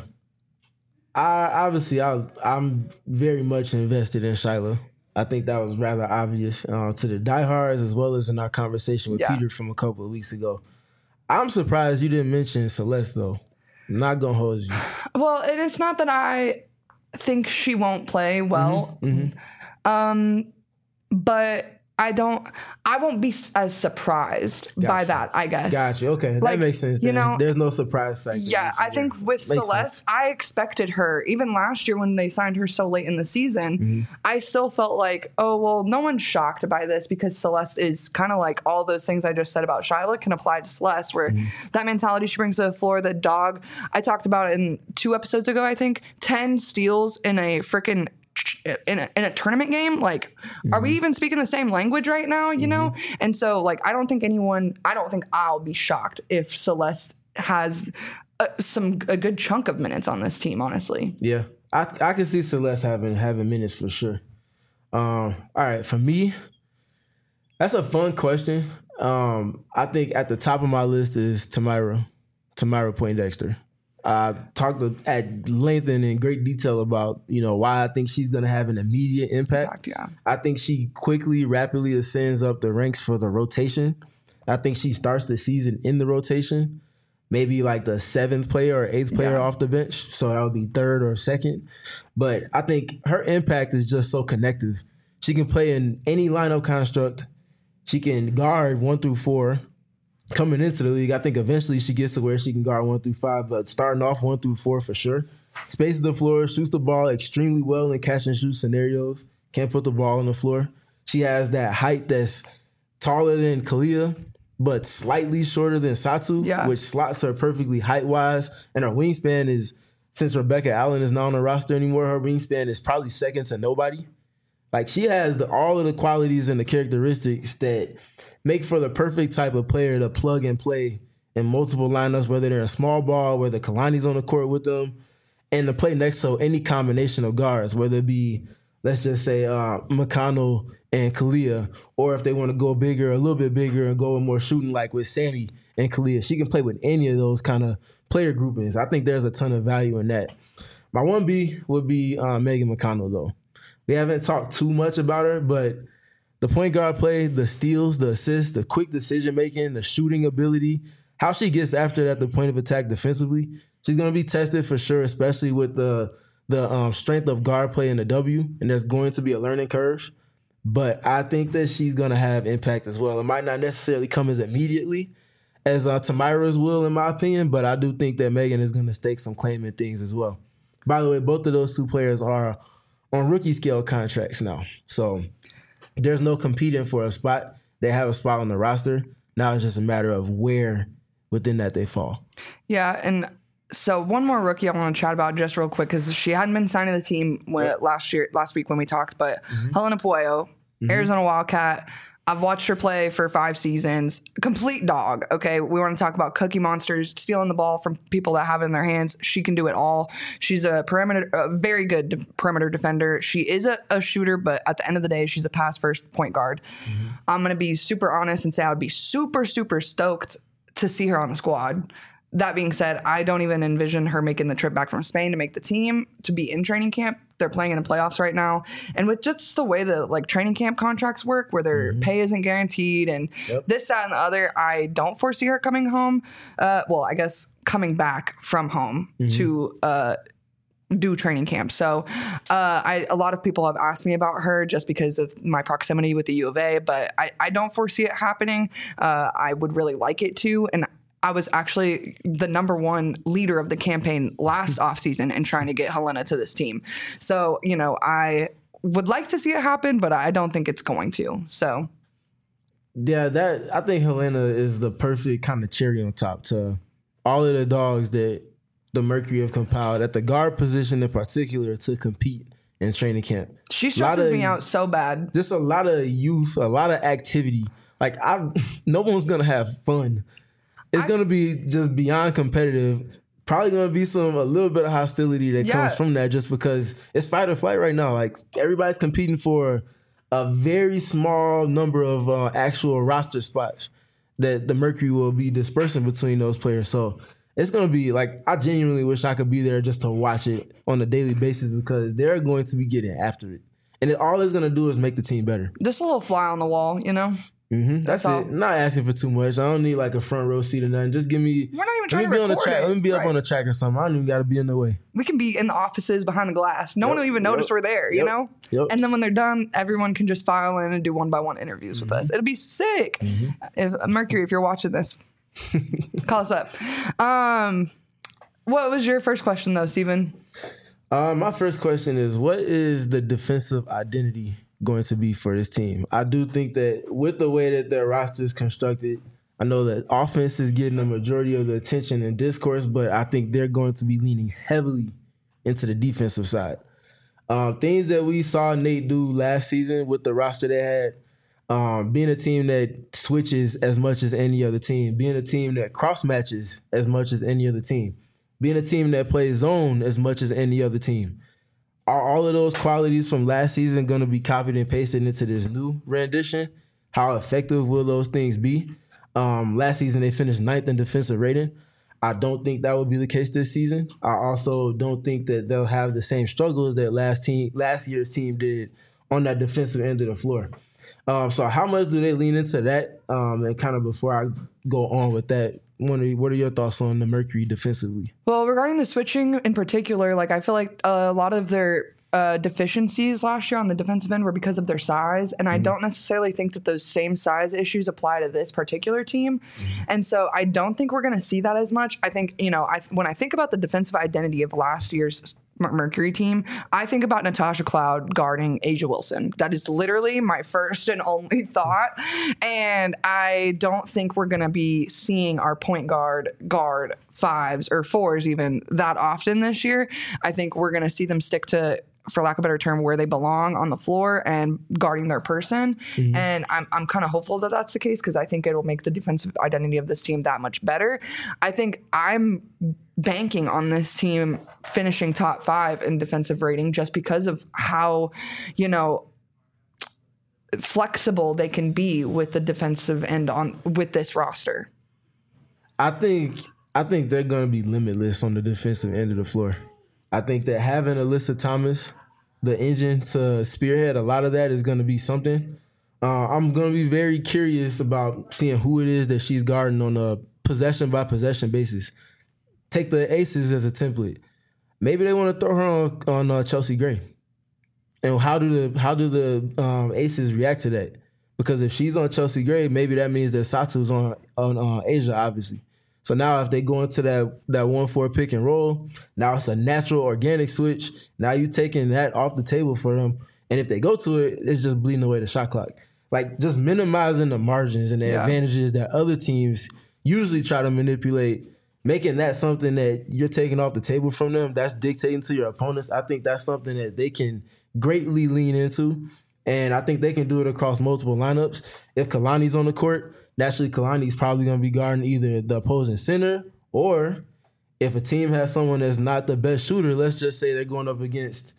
I'm very much invested in Shyla. I think that was rather obvious to the diehards as well as in our conversation with Peter from a couple of weeks ago. I'm surprised you didn't mention Celeste, though. I'm not going to hold you. Well, it's not that I think she won't play well, but I won't be as surprised by that, I guess. Gotcha. Okay. That makes sense. Then. There's no surprise factor. Yeah. I think with Celeste, I expected her, even last year when they signed her so late in the season, I still felt like, oh, well, no one's shocked by this because Celeste is kind of like all those things I just said about Shyla can apply to Celeste, where that mentality she brings to the floor, the dog, I talked about it in 2 episodes ago, I think, 10 steals in a freaking in a tournament game. Like, are we even speaking the same language right now, and so like I don't think I'll be shocked if Celeste has a good chunk of minutes on this team, honestly. Yeah, I can see Celeste having minutes for sure. All right, for me, that's a fun question. I think at the top of my list is Tamyra Poindexter. I talked at length and in great detail about, why I think she's going to have an immediate impact. I think she rapidly ascends up the ranks for the rotation. I think she starts the season in the rotation, maybe like the 7th player or 8th player off the bench. So that would be 3rd or 2nd. But I think her impact is just so connective. She can play in any lineup construct. She can guard 1 through 4. Coming into the league, I think eventually she gets to where she can guard 1 through 5, but starting off 1 through 4 for sure. Spaces the floor, shoots the ball extremely well in catch and shoot scenarios. Can't put the ball on the floor. She has that height that's taller than Kalia, but slightly shorter than Satu, which slots her perfectly height-wise. And her wingspan is, since Rebecca Allen is not on the roster anymore, her wingspan is probably second to nobody. Like, she has all of the qualities and the characteristics that make for the perfect type of player to plug and play in multiple lineups, whether they're in small ball, whether Kalani's on the court with them, and to play next to any combination of guards, whether it be, let's just say, McConnell and Kalia, or if they want to go bigger, a little bit bigger, and go more shooting like with Sammy and Kalia. She can play with any of those kind of player groupings. I think there's a ton of value in that. My 1B would be Megan McConnell, though. We haven't talked too much about her, but the point guard play, the steals, the assists, the quick decision-making, the shooting ability, how she gets after it at the point of attack defensively, she's going to be tested for sure, especially with the strength of guard play in the W, and there's going to be a learning curve. But I think that she's going to have impact as well. It might not necessarily come as immediately as Tamyra's will, in my opinion, but I do think that Megan is going to stake some claim in things as well. By the way, both of those 2 players are on rookie scale contracts now. So there's no competing for a spot. They have a spot on the roster. Now it's just a matter of where within that they fall. Yeah, and So one more rookie I want to chat about just real quick because she hadn't been signed to the team last week when we talked, but Helena Puello, Arizona Wildcat. I've watched her play for 5 seasons. Complete dog. Okay, we want to talk about cookie monsters, stealing the ball from people that have it in their hands. She can do it all. She's a very good perimeter defender. She is a shooter, but at the end of the day, she's a pass first point guard. I'm gonna be super honest and say I would be super, super stoked to see her on the squad. That being said, I don't even envision her making the trip back from Spain to make the team, to be in training camp. They're playing in the playoffs right now. And with just the way the training camp contracts work, where their pay isn't guaranteed and this, that, and the other, I don't foresee her coming home. I guess coming back from home to do training camp. So a lot of people have asked me about her just because of my proximity with the U of A, but I don't foresee it happening. I would really like it to. And I was actually the number one leader of the campaign last offseason in trying to get Helena to this team. So, I would like to see it happen, but I don't think it's going to. So, yeah, I think Helena is the perfect kind of cherry on top to all of the dogs that the Mercury have compiled at the guard position in particular to compete in training camp. She stresses me out so bad. Just a lot of youth, a lot of activity. No one's going to have fun. It's going to be just beyond competitive. Probably going to be a little bit of hostility that comes from that just because it's fight or flight right now. Everybody's competing for a very small number of actual roster spots that the Mercury will be dispersing between those players. So it's going to be I genuinely wish I could be there just to watch it on a daily basis because they're going to be getting after it. And all it's going to do is make the team better. Just a little fly on the wall, That's it. I'm not asking for too much. I don't need a front row seat or nothing. Just give me. We're not even trying to be record on the track. it. Let me be up on the track or something. I don't even got to be in the way. We can be in the offices behind the glass. No one will even notice we're there, Yep. And then when they're done, everyone can just file in and do 1-by-1 interviews with us. It'll be sick. If Mercury, if you're watching this, call us up. What was your first question though, Steven? My first question is, what is the defensive identity going to be for this team? I do think that with the way that their roster is constructed, I know that offense is getting the majority of the attention and discourse, but I think they're going to be leaning heavily into the defensive side. Things that we saw Nate do last season with the roster they had, being a team that switches as much as any other team, being a team that cross matches as much as any other team, being a team that plays zone as much as any other team. Are all of those qualities from last season going to be copied and pasted into this new rendition? How effective will those things be? Last season, they finished 9th in defensive rating. I don't think that will be the case this season. I also don't think that they'll have the same struggles that last year's team did on that defensive end of the floor. So how much do they lean into that? And kind of before I go on with that, what are your thoughts on the Mercury defensively? Well, regarding the switching in particular, I feel like a lot of their deficiencies last year on the defensive end were because of their size. And I don't necessarily think that those same size issues apply to this particular team. And so I don't think we're going to see that as much. I think, when I think about the defensive identity of last year's Mercury team, I think about Natasha Cloud guarding A'ja Wilson. That is literally my first and only thought. And I don't think we're going to be seeing our point guard 5s or 4s even that often this year. I think we're going to see them stick to, for lack of a better term, where they belong on the floor and guarding their person. And I'm kind of hopeful that that's the case because I think it'll make the defensive identity of this team that much better. I think I'm banking on this team finishing top 5 in defensive rating just because of how, flexible they can be with the defensive end with this roster. I think they're going to be limitless on the defensive end of the floor. I think that having Alyssa Thomas, the engine to spearhead a lot of that is going to be something. I'm going to be very curious about seeing who it is that she's guarding on a possession-by-possession basis. Take the Aces as a template. Maybe they want to throw her on Chelsea Gray. And how do the Aces react to that? Because if she's on Chelsea Gray, maybe that means that Satu's on A'ja, obviously. So now if they go into that 1-4 pick and roll, now it's a natural organic switch. Now you're taking that off the table for them. And if they go to it, it's just bleeding away the shot clock. Just minimizing the margins and the advantages that other teams usually try to manipulate making that something that you're taking off the table from them, that's dictating to your opponents. I think that's something that they can greatly lean into. And I think they can do it across multiple lineups. If Kalani's on the court, naturally Kalani's probably going to be guarding either the opposing center, or if a team has someone that's not the best shooter, let's just say they're going up against,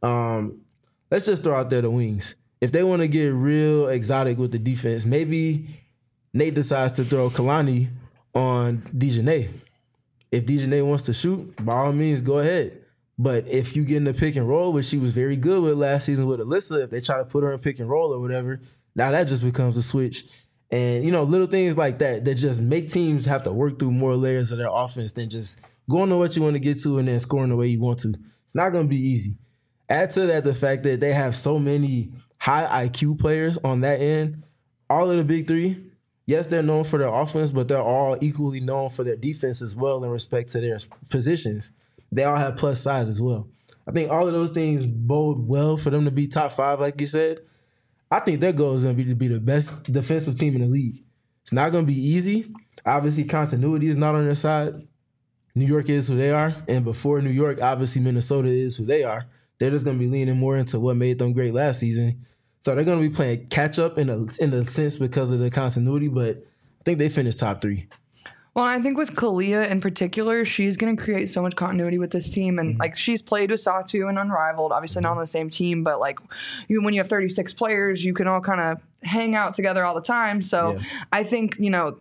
let's just throw out there the wings. If they want to get real exotic with the defense, maybe Nate decides to throw Kalani on Dejanay. If Dejanay wants to shoot, by all means, go ahead. But if you get in the pick and roll, which she was very good with last season with Alyssa, if they try to put her in pick and roll or whatever, now that just becomes a switch. And, little things like that just make teams have to work through more layers of their offense than just going to what you want to get to and then scoring the way you want to. It's not going to be easy. Add to that the fact that they have so many high IQ players on that end. All of the big three, yes, they're known for their offense, but they're all equally known for their defense as well in respect to their positions. They all have plus size as well. I think all of those things bode well for them to be top 5, like you said. I think their goal is going to be the best defensive team in the league. It's not going to be easy. Obviously, continuity is not on their side. New York is who they are, and before New York, obviously Minnesota is who they are. They're just going to be leaning more into what made them great last season. So they're going to be playing catch-up in a sense because of the continuity, but I think they finished top 3. Well, I think with Kalia in particular, she's going to create so much continuity with this team. And, she's played with Satu and Unrivaled, obviously not on the same team, but, when you have 36 players, you can all kind of hang out together all the time. So I think,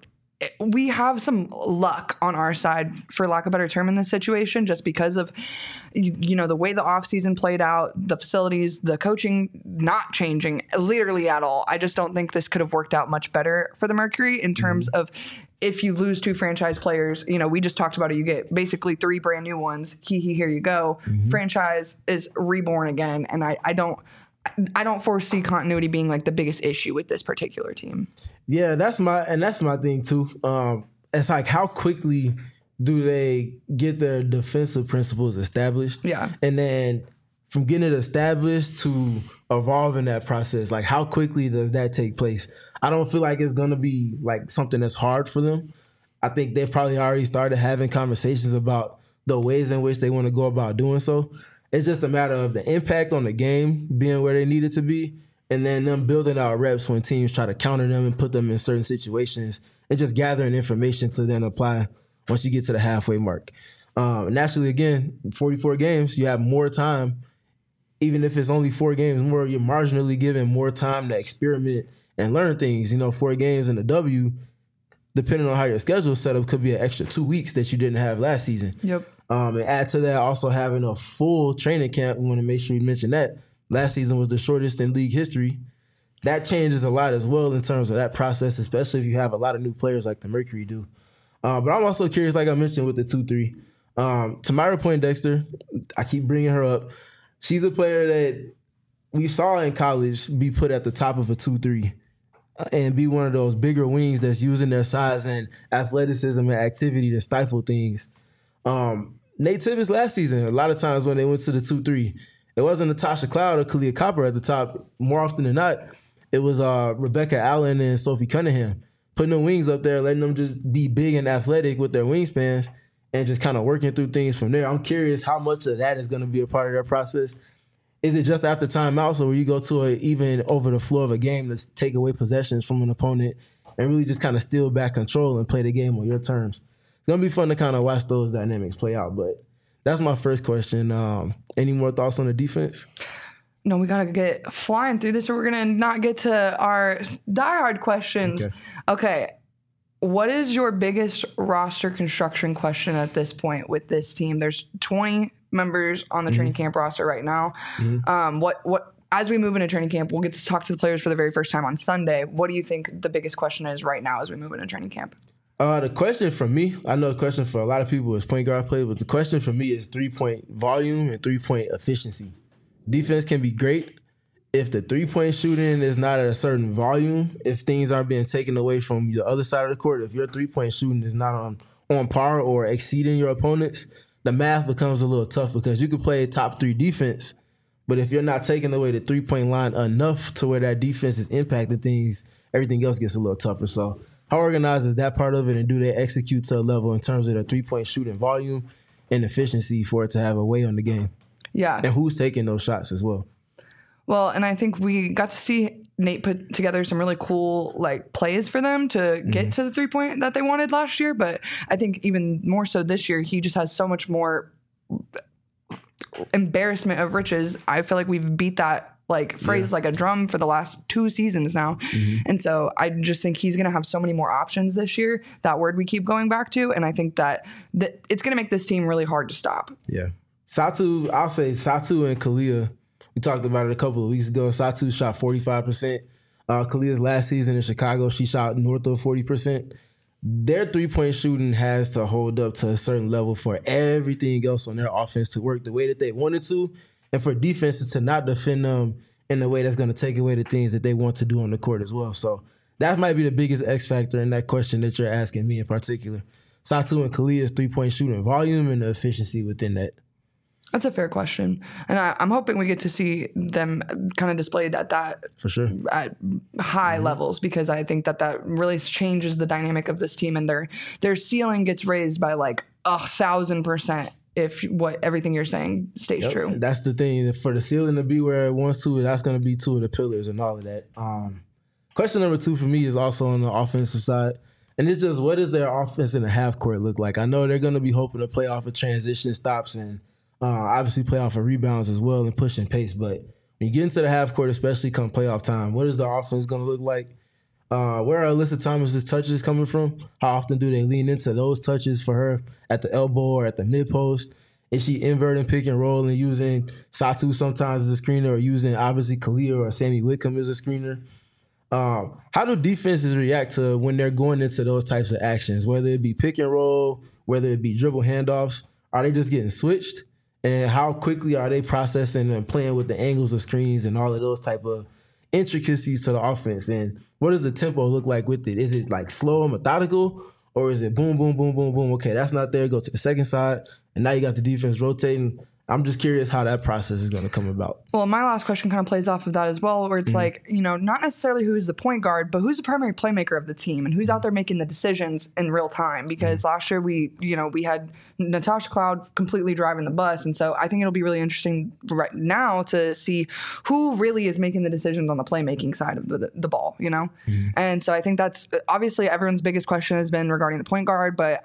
we have some luck on our side, for lack of a better term, in this situation, just because of, the way the offseason played out, the facilities, the coaching not changing literally at all. I just don't think this could have worked out much better for the Mercury in terms of, if you lose 2 franchise players, we just talked about it, you get basically 3 brand new ones. Here you go. Franchise is reborn again. And I don't foresee continuity being the biggest issue with this particular team. Yeah, that's my thing too. It's how quickly do they get their defensive principles established? Yeah. And then from getting it established to evolving that process, how quickly does that take place? I don't feel like it's going to be something that's hard for them. I think they've probably already started having conversations about the ways in which they want to go about doing so. It's just a matter of the impact on the game being where they need it to be, and then them building out reps when teams try to counter them and put them in certain situations, and just gathering information to then apply once you get to the halfway mark. Naturally, again, 44 games, you have more time. Even if it's only 4 games more, you're marginally given more time to experiment and learn things. 4 games in the W, depending on how your schedule is set up, could be an extra 2 weeks that you didn't have last season. Yep. And add to that, also having a full training camp. We want to make sure you mention that. Last season was the shortest in league history. That changes a lot as well in terms of that process, especially if you have a lot of new players like the Mercury do. But I'm also curious, like I mentioned with the 2-3. Tamara Poindexter, I keep bringing her up. She's a player that we saw in college be put at the top of a 2-3 and be one of those bigger wings that's using their size and athleticism and activity to stifle things. Nate Tibbetts last season, a lot of times when they went to the 2-3, it wasn't Natasha Cloud or Kalia Copper at the top. More often than not, it was Rebecca Allen and Sophie Cunningham, putting the wings up there, letting them just be big and athletic with their wingspans and just kind of working through things from there. I'm curious how much of that is going to be a part of their process. Is it just after timeouts, or will you go to even over the floor of a game to take away possessions from an opponent and really just kind of steal back control and play the game on your terms? It's going to be fun to kind of watch those dynamics play out, but that's my first question. Any more thoughts on the defense? No, we got to get flying through this, or we're going to not get to our diehard questions. Okay. What is your biggest roster construction question at this point with this team? There's 20 members on the training camp roster right now. What as we move into training camp, we'll get to talk to the players for the very first time on Sunday. What do you think the biggest question is right now as we move into training camp? The question for me, I know the question for a lot of people is point guard play, but the question for me is 3-point volume and 3-point efficiency. Defense can be great if the 3-point shooting is not at a certain volume, if things aren't being taken away from the other side of the court, if your 3-point shooting is not on par or exceeding your opponents, the math becomes a little tough because you could play top 3 defense, but if you're not taking away the 3-point line enough to where that defense is impacting things, everything else gets a little tougher. So How organized is that part of it, and do they execute to a level in terms of the 3-point shooting volume and efficiency for it to have a way on the game? Yeah. And who's taking those shots as well? Well, and I think we got to see Nate put together some really cool like plays for them to get to the 3-point that they wanted last year. But I think even more so this year, he just has so much more embarrassment of riches. I feel like we've beat that like phrase like a drum for the last 2 seasons now. And so I just think he's going to have so many more options this year, that word we keep going back to. And I think that it's going to make this team really hard to stop. Yeah. Satu, I'll say Satu and Kalia, we talked about it a couple of weeks ago. Satu shot 45%. Kalia's last season in Chicago, she shot north of 40%. Their 3-point shooting has to hold up to a certain level for everything else on their offense to work the way that they wanted to, and for defenses to not defend them in a way that's going to take away the things that they want to do on the court as well. So that might be the biggest X factor in that question that you're asking me in particular. Satu and Kalia's 3-point shooting volume and the efficiency within that. That's a fair question. And I'm hoping we get to see them kind of displayed at that. For sure. At high levels, because I think that really changes the dynamic of this team, and their ceiling gets raised by like 1,000% if everything you're saying stays true. That's the thing. For the ceiling to be where it wants to, that's going to be 2 of the pillars and all of that. Question number 2 for me is also on the offensive side. And it's just, what does their offense in the half court look like? I know they're going to be hoping to play off of transition stops and obviously play off of rebounds as well and pushing pace. But when you get into the half court, especially come playoff time, what is the offense going to look like? Where are Alyssa Thomas's touches coming from? How often do they lean into those touches for her at the elbow or at the mid post? Is she inverting pick and roll and using Satu sometimes as a screener, or using obviously Kalia or Sammy Whitcomb as a screener? How do defenses react to when they're going into those types of actions, whether it be pick and roll, whether it be dribble handoffs? Are they just getting switched? And how quickly are they processing and playing with the angles of screens and all of those type of intricacies to the offense? And what does the tempo look like with it? Is it like slow and methodical, or is it boom, boom, boom, boom, boom? Okay, that's not there. Go to the second side, and now you got the defense rotating. I'm just curious how that process is going to come about. Well, my last question kind of plays off of that as well, where it's like, not necessarily who's the point guard, but who's the primary playmaker of the team and who's out there making the decisions in real time. Because last year we had Natasha Cloud completely driving the bus. And so I think it'll be really interesting right now to see who really is making the decisions on the playmaking side of the ball, And so I think that's obviously everyone's biggest question has been regarding the point guard, but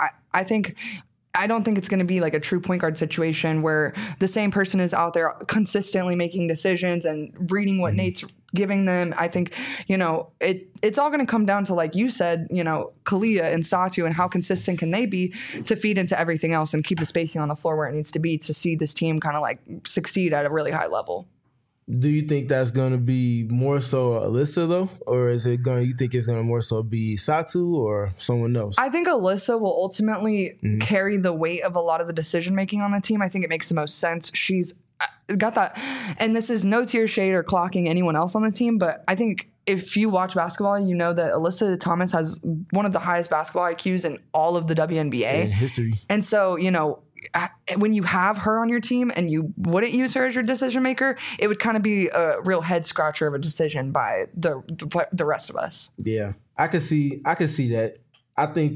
I don't think it's going to be like a true point guard situation where the same person is out there consistently making decisions and reading what Nate's giving them. I think, it's all going to come down to, like you said, Kalia and Satu and how consistent can they be to feed into everything else and keep the spacing on the floor where it needs to be to see this team kind of like succeed at a really high level. Do you think that's going to be more so Alyssa, though? Or you think it's going to more so be Satu or someone else? I think Alyssa will ultimately carry the weight of a lot of the decision-making on the team. I think it makes the most sense. She's got that. And this is no tear shade or clocking anyone else on the team, but I think if you watch basketball, you know that Alyssa Thomas has one of the highest basketball IQs in all of the WNBA. In history. And so, when you have her on your team and you wouldn't use her as your decision maker, it would kind of be a real head scratcher of a decision by the rest of us. Yeah, I could see that. I think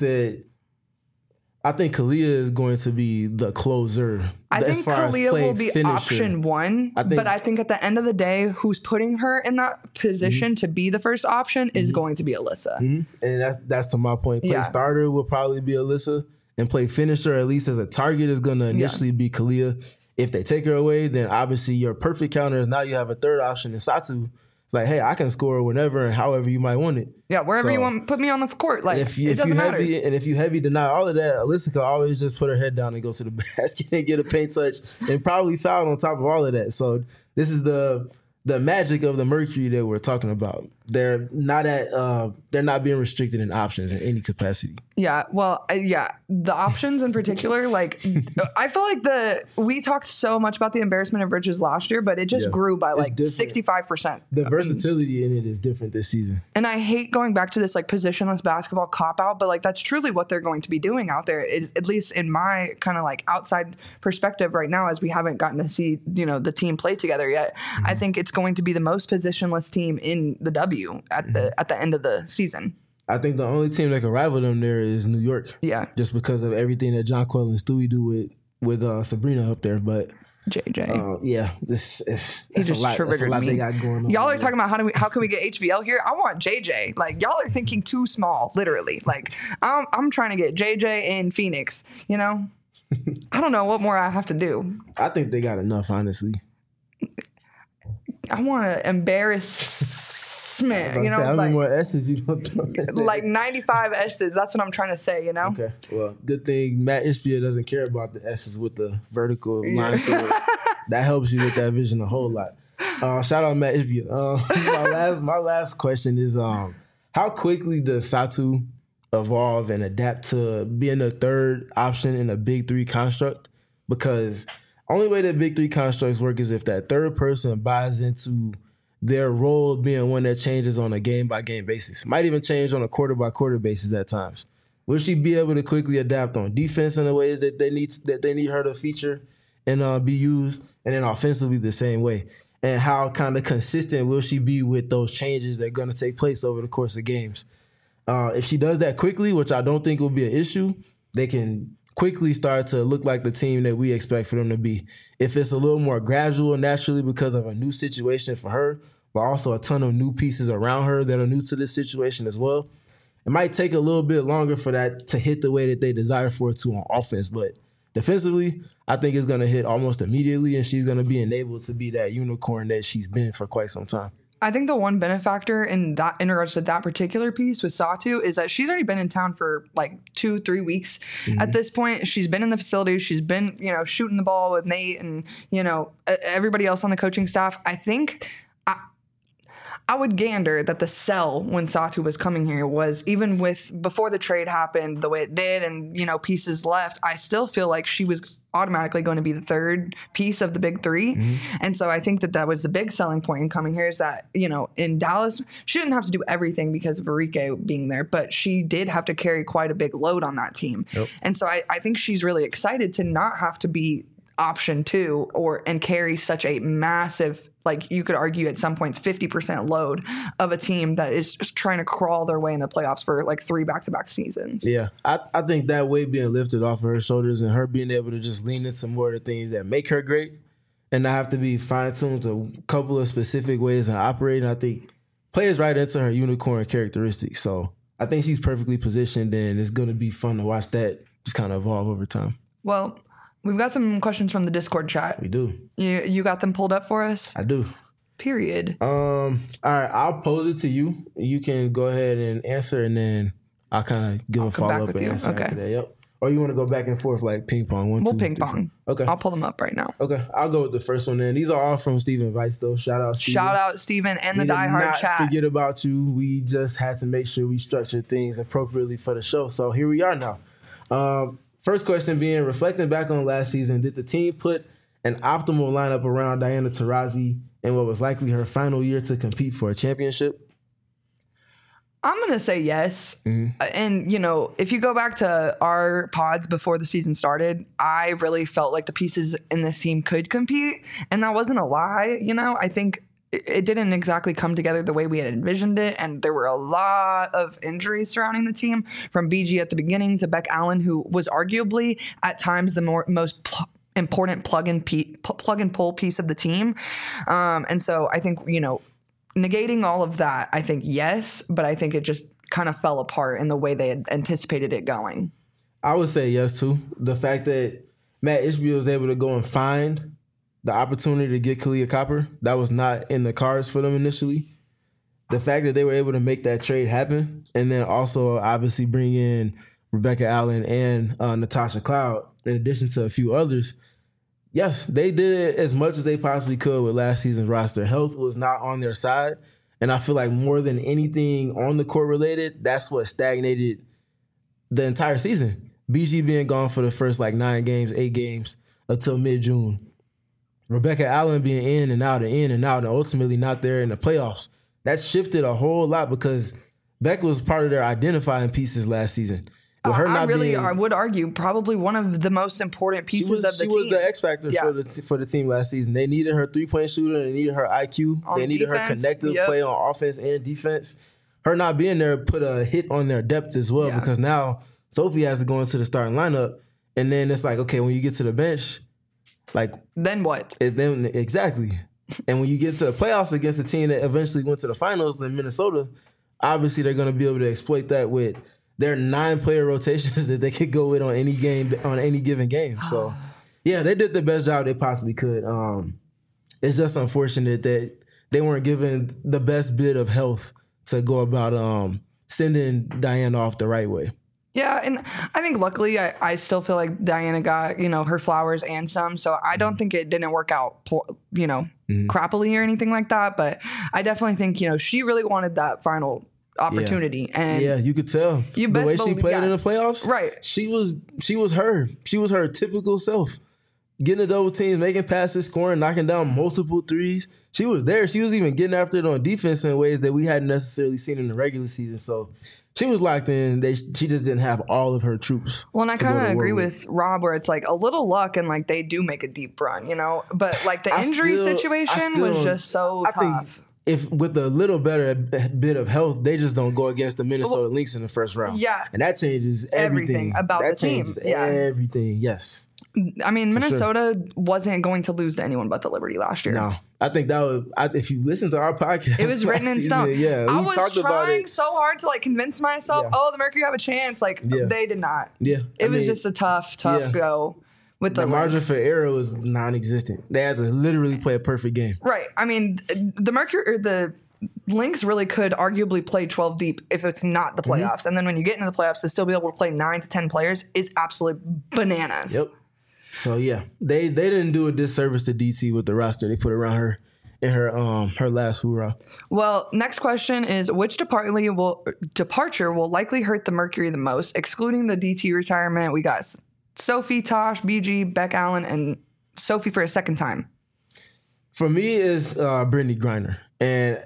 Kalia is going to be the closer. I think Kalia will be option 1, but I think at the end of the day, who's putting her in that position to be the first option is going to be Alyssa. And that's to my point. Play starter will probably be Alyssa. And play finisher, at least as a target, is going to initially be Kalia. If they take her away, then obviously your perfect counter is now you have a third option in Satu. It's like, hey, I can score whenever and however you might want it. Yeah, wherever you want, put me on the court. Like, it doesn't matter. And if you heavy deny all of that, Alyssa could always just put her head down and go to the basket and get a paint touch and probably foul on top of all of that. So this is the magic of the Mercury that we're talking about. They're not being restricted in options in any capacity. Yeah, well, the options in particular, like I feel like we talked so much about the embarrassment of riches last year, but it just grew by like 65%. The versatility in it is different this season. And I hate going back to this like positionless basketball cop out, but like that's truly what they're going to be doing out there. At least in my kind of like outside perspective right now, as we haven't gotten to see the team play together yet. I think it's going to be the most positionless team in the W at the end of the season. I think the only team that can rival them there is New York. Yeah. Just because of everything that Jonquel and Stewie do with Sabrina up there. But JJ. Yeah. It's a lot they got going on. Y'all are talking about how can we get HVL here? I want JJ. Like, y'all are thinking too small, literally. Like, I'm trying to get JJ in Phoenix, you know? I don't know what more I have to do. I think they got enough, honestly. I want to embarrass. You know, how many like, more S's you want like 95 S's. That's what I'm trying to say, you know? Okay. Well, good thing Matt Ishbia doesn't care about the S's with the vertical line through it. That helps you with that vision a whole lot. Shout out Matt Ishbia. My last question is how quickly does Satu evolve and adapt to being the third option in a big three construct? Because only way that big three constructs work is if that third person buys into their role being one that changes on a game-by-game basis. Might even change on a quarter-by-quarter basis at times. Will she be able to quickly adapt on defense in the ways that they need her to feature and be used, and then offensively the same way? And how kind of consistent will she be with those changes that are going to take place over the course of games? If she does that quickly, which I don't think will be an issue, they can quickly start to look like the team that we expect for them to be. If it's a little more gradual, naturally, because of a new situation for her, but also a ton of new pieces around her that are new to this situation as well, it might take a little bit longer for that to hit the way that they desire for it to on offense. But defensively, I think it's going to hit almost immediately, and she's going to be enabled to be that unicorn that she's been for quite some time. I think the one benefactor in regards to that particular piece with Satu is that she's already been in town for like 2-3 weeks at this point. She's been in the facility. She's been, shooting the ball with Nate and, everybody else on the coaching staff. I think I would gander that the sell when Satu was coming here was, even before the trade happened the way it did and, pieces left, I still feel like she was automatically going to be the third piece of the big three. And so I think that was the big selling point in coming here is that, in Dallas, she didn't have to do everything because of Arike being there, but she did have to carry quite a big load on that team. Yep. And so I think she's really excited to not have to be option 2 and carry such a massive, like you could argue at some points 50% load of a team that is just trying to crawl their way in the playoffs for like 3 back-to-back seasons. Yeah, I think that weight being lifted off of her shoulders and her being able to just lean into more of the things that make her great and not have to be fine-tuned to a couple of specific ways of operating, I think plays right into her unicorn characteristics. So I think she's perfectly positioned, and it's going to be fun to watch that just kind of evolve over time. Well, we've got some questions from the Discord chat. We do. You got them pulled up for us? I do. Period. All right, I'll pose it to you. You can go ahead and answer, and then I'll kind of give a follow-up and answer after that. Yep. Or you want to go back and forth like ping pong? We'll ping pong. Okay. I'll pull them up right now. Okay. I'll go with the first one then. These are all from Steven Weiss, though. Shout out, Steven. Shout out, Steven, and the Die Hard chat. Forget about you. We just had to make sure we structure things appropriately for the show. So here we are now. First question being, reflecting back on last season, did the team put an optimal lineup around Diana Taurasi in what was likely her final year to compete for a championship? I'm going to say yes. And, if you go back to our pods before the season started, I really felt like the pieces in this team could compete. And that wasn't a lie. I think it didn't exactly come together the way we had envisioned it. And there were a lot of injuries surrounding the team, from BG at the beginning to Beck Allen, who was arguably at times the most important plug and pull piece of the team. And so I think, negating all of that, I think yes, but I think it just kind of fell apart in the way they had anticipated it going. I would say yes, too. The fact that Matt Ishbia was able to go and find the opportunity to get Kalia Copper, that was not in the cards for them initially. The fact that they were able to make that trade happen, and then also obviously bring in Rebecca Allen and Natasha Cloud, in addition to a few others, yes, they did as much as they possibly could with last season's roster. Health was not on their side, and I feel like more than anything on the court related, that's what stagnated the entire season. BG being gone for the first 8 games until mid-June. Rebecca Allen being in and out, and ultimately not there in the playoffs. That shifted a whole lot because Beck was part of their identifying pieces last season. I would argue probably one of the most important pieces of the team. She was the X factor for the team last season. They needed her 3-point shooter. They needed her IQ. They needed her connective play on offense and defense. her not being there put a hit on their depth as well because now Sophie has to go into the starting lineup, and then it's like, okay, when you get to the bench, like then what? Exactly. And when you get to the playoffs against a team that eventually went to the finals in Minnesota, obviously they're going to be able to exploit that with their 9-player rotations that they could go with on any given game. So, yeah, they did the best job they possibly could. It's just unfortunate that they weren't given the best bit of health to go about sending Diana off the right way. Yeah, and I think luckily I still feel like Diana got, her flowers and some, so I don't think it didn't work out, crappily or anything like that, but I definitely think, she really wanted that final opportunity. Yeah. And yeah, you could tell the way she played in the playoffs. Right. She was her. She was her typical self. Getting the double teams, making passes, scoring, knocking down multiple threes. She was there. She was even getting after it on defense in ways that we hadn't necessarily seen in the regular season. So she was locked in. She just didn't have all of her troops. Well, and I kind of agree with Rob where it's like a little luck and like they do make a deep run, But like the injury situation was just so tough. I think if with a little better bit of health, they just don't go against the Minnesota Lynx in the first round. Yeah. And that changes everything about the team. Yeah. Everything, yes. I mean, Minnesota wasn't going to lose to anyone but the Liberty last year. No, I think that would. if you listen to our podcast, it was written in stone. Yeah, I was trying so hard to convince myself. Yeah. Oh, the Mercury have a chance. They did not. Yeah, it was just a tough go with the margin for error was non-existent. They had to literally play a perfect game. Right. I mean, the Mercury or the Lynx really could arguably play 12 deep if it's not the playoffs. And then when you get into the playoffs, to still be able to play 9 to 10 players is absolute bananas. Yep. So yeah, they didn't do a disservice to DT with the roster they put around her in her last hoorah. Well, next question is which departure will likely hurt the Mercury the most? Excluding the DT retirement, we got Sophie, Tosh, BG, Beck Allen, and Sophie for a second time. For me, it's Brittany Griner, and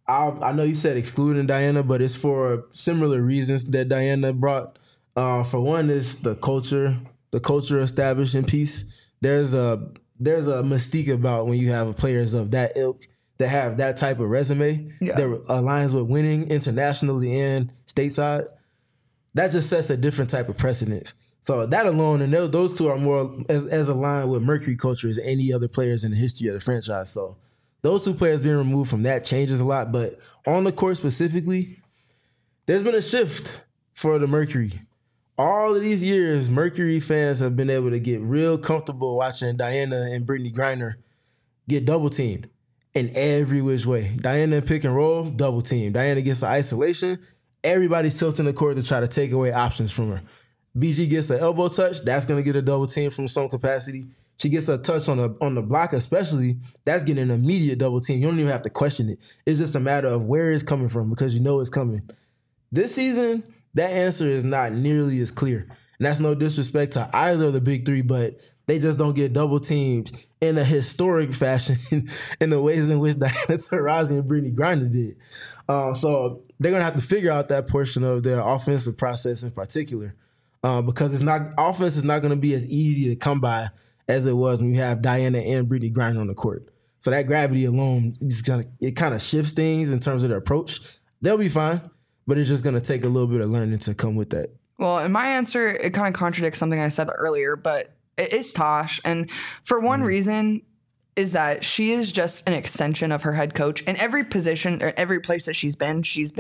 I know you said excluding Diana, but it's for similar reasons that Diana brought. For one, is the culture established in peace. There's a mystique about when you have players of that ilk that have that type of resume that aligns with winning internationally and stateside. That just sets a different type of precedence. So that alone, and those two are more as aligned with Mercury culture as any other players in the history of the franchise. So those two players being removed from that changes a lot. But on the court specifically, there's been a shift for the Mercury. All of these years, Mercury fans have been able to get real comfortable watching Diana and Brittany Griner get double teamed in every which way. Diana pick and roll, double team. Diana gets the isolation. Everybody's tilting the court to try to take away options from her. BG gets the elbow touch. That's going to get a double team from some capacity. She gets a touch on the block especially. That's getting an immediate double team. You don't even have to question it. It's just a matter of where it's coming from because you know it's coming. This season, that answer is not nearly as clear. And that's no disrespect to either of the big three, but they just don't get double teamed in a historic fashion in the ways in which Diana Taurasi and Brittany Griner did. So they're going to have to figure out that portion of their offensive process in particular because offense is not going to be as easy to come by as it was when you have Diana and Brittany Griner on the court. So that gravity alone, it kind of shifts things in terms of their approach. They'll be fine. But it's just going to take a little bit of learning to come with that. Well, in my answer, it kind of contradicts something I said earlier, but it is Tosh. And for one reason is that she is just an extension of her head coach. In every position or every place that she's been,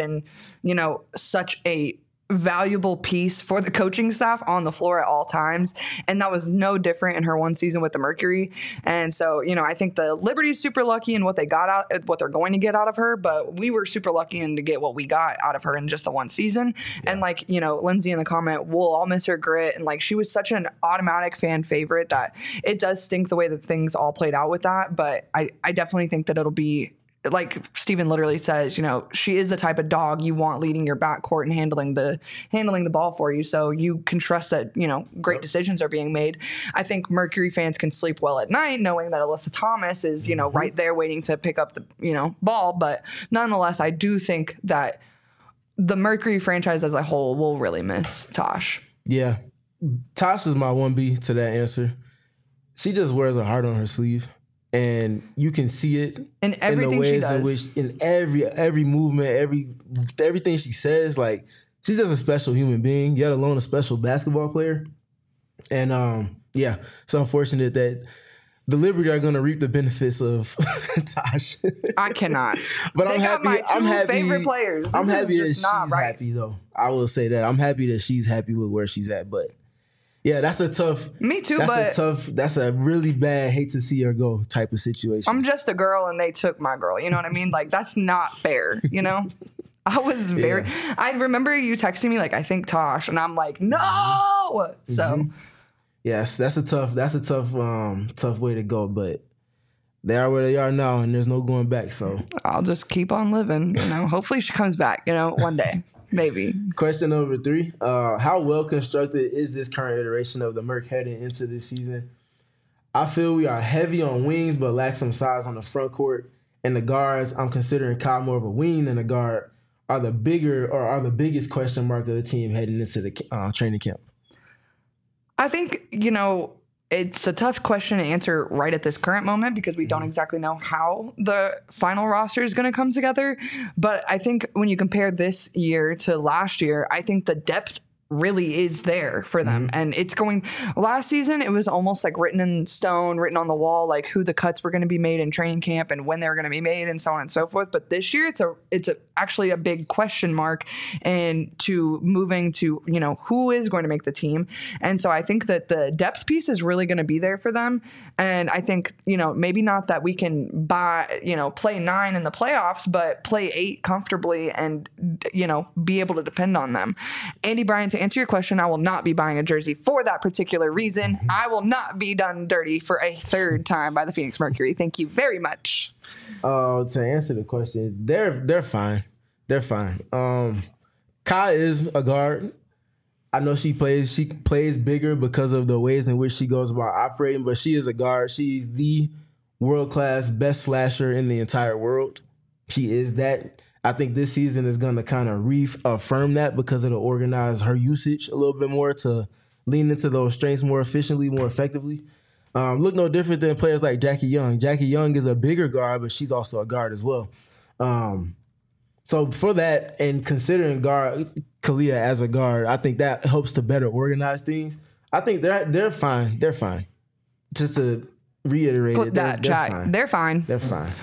such a valuable piece for the coaching staff on the floor at all times. And that was no different in her one season with the Mercury. And so, I think the Liberty's super lucky in what what they're going to get out of her, but we were super lucky to get what we got out of her in just the one season. Yeah. And Lindsay in the comment, we'll all miss her grit. And she was such an automatic fan favorite that it does stink the way that things all played out with that. But I definitely think that it'll be, like Steven literally says, she is the type of dog you want leading your backcourt and handling the ball for you. So you can trust that, great decisions are being made. I think Mercury fans can sleep well at night knowing that Alyssa Thomas is, right there waiting to pick up the, ball. But nonetheless, I do think that the Mercury franchise as a whole will really miss Tosh. Yeah. Tosh is my 1B to that answer. She just wears her heart on her sleeve. and you can see it in everything the ways she does. in which in every movement, everything she says. Like, she's just a special human being, yet alone a special basketball player. And yeah, it's unfortunate that the Liberty are going to reap the benefits of Tosh. I cannot. But I'm happy. My two favorite players. I'm happy that she's happy, though. I will say that I'm happy that she's happy with where she's at. But yeah, that's a tough. Me too. That's a really bad, hate to see her go type of situation. I'm just a girl, and they took my girl. You know what I mean? Like, that's not fair. You know. I was very. Yeah. I remember you texting me like, I think Tosh, and I'm like, no. So. Yes, that's a tough way to go, but they are where they are now, and there's no going back. So I'll just keep on living. You know, hopefully she comes back. You know, one day, maybe. Question number 3: how well constructed is this current iteration of the Merc heading into this season? I feel we are heavy on wings, but lack some size on the front court. And the guards, I'm considering Kyle more of a wing than a guard, are the biggest question mark of the team heading into the training camp. I think, you know, it's a tough question to answer right at this current moment because we don't exactly know how the final roster is going to come together. But I think when you compare this year to last year, I think the depth really is there for them. And it's going, last season, it was almost like written in stone, written on the wall, like who the cuts were going to be made in training camp and when they were going to be made and so on and so forth. But this year, it's actually a big question mark and to moving to, you know, who is going to make the team. And so I think that the depth piece is really going to be there for them. And I think, you know, maybe not that we can play 9 in the playoffs, but play 8 comfortably and, you know, be able to depend on them. Andy Bryant, to answer your question, I will not be buying a jersey for that particular reason. I will not be done dirty for a third time by the Phoenix Mercury. Thank you very much. To answer the question, they're fine. They're fine. Kai is a guard. I know she plays bigger because of the ways in which she goes about operating, but she is a guard. She's the world-class best slasher in the entire world. She is that. I think this season is going to kind of reaffirm that because it'll organize her usage a little bit more to lean into those strengths more efficiently, more effectively. Look no different than players like Jackie Young. Jackie Young is a bigger guard, but she's also a guard as well. So for that, and considering Kalia as a guard, I think that helps to better organize things. I think they're fine. They're fine. Just to reiterate it, they're fine. They're fine. They're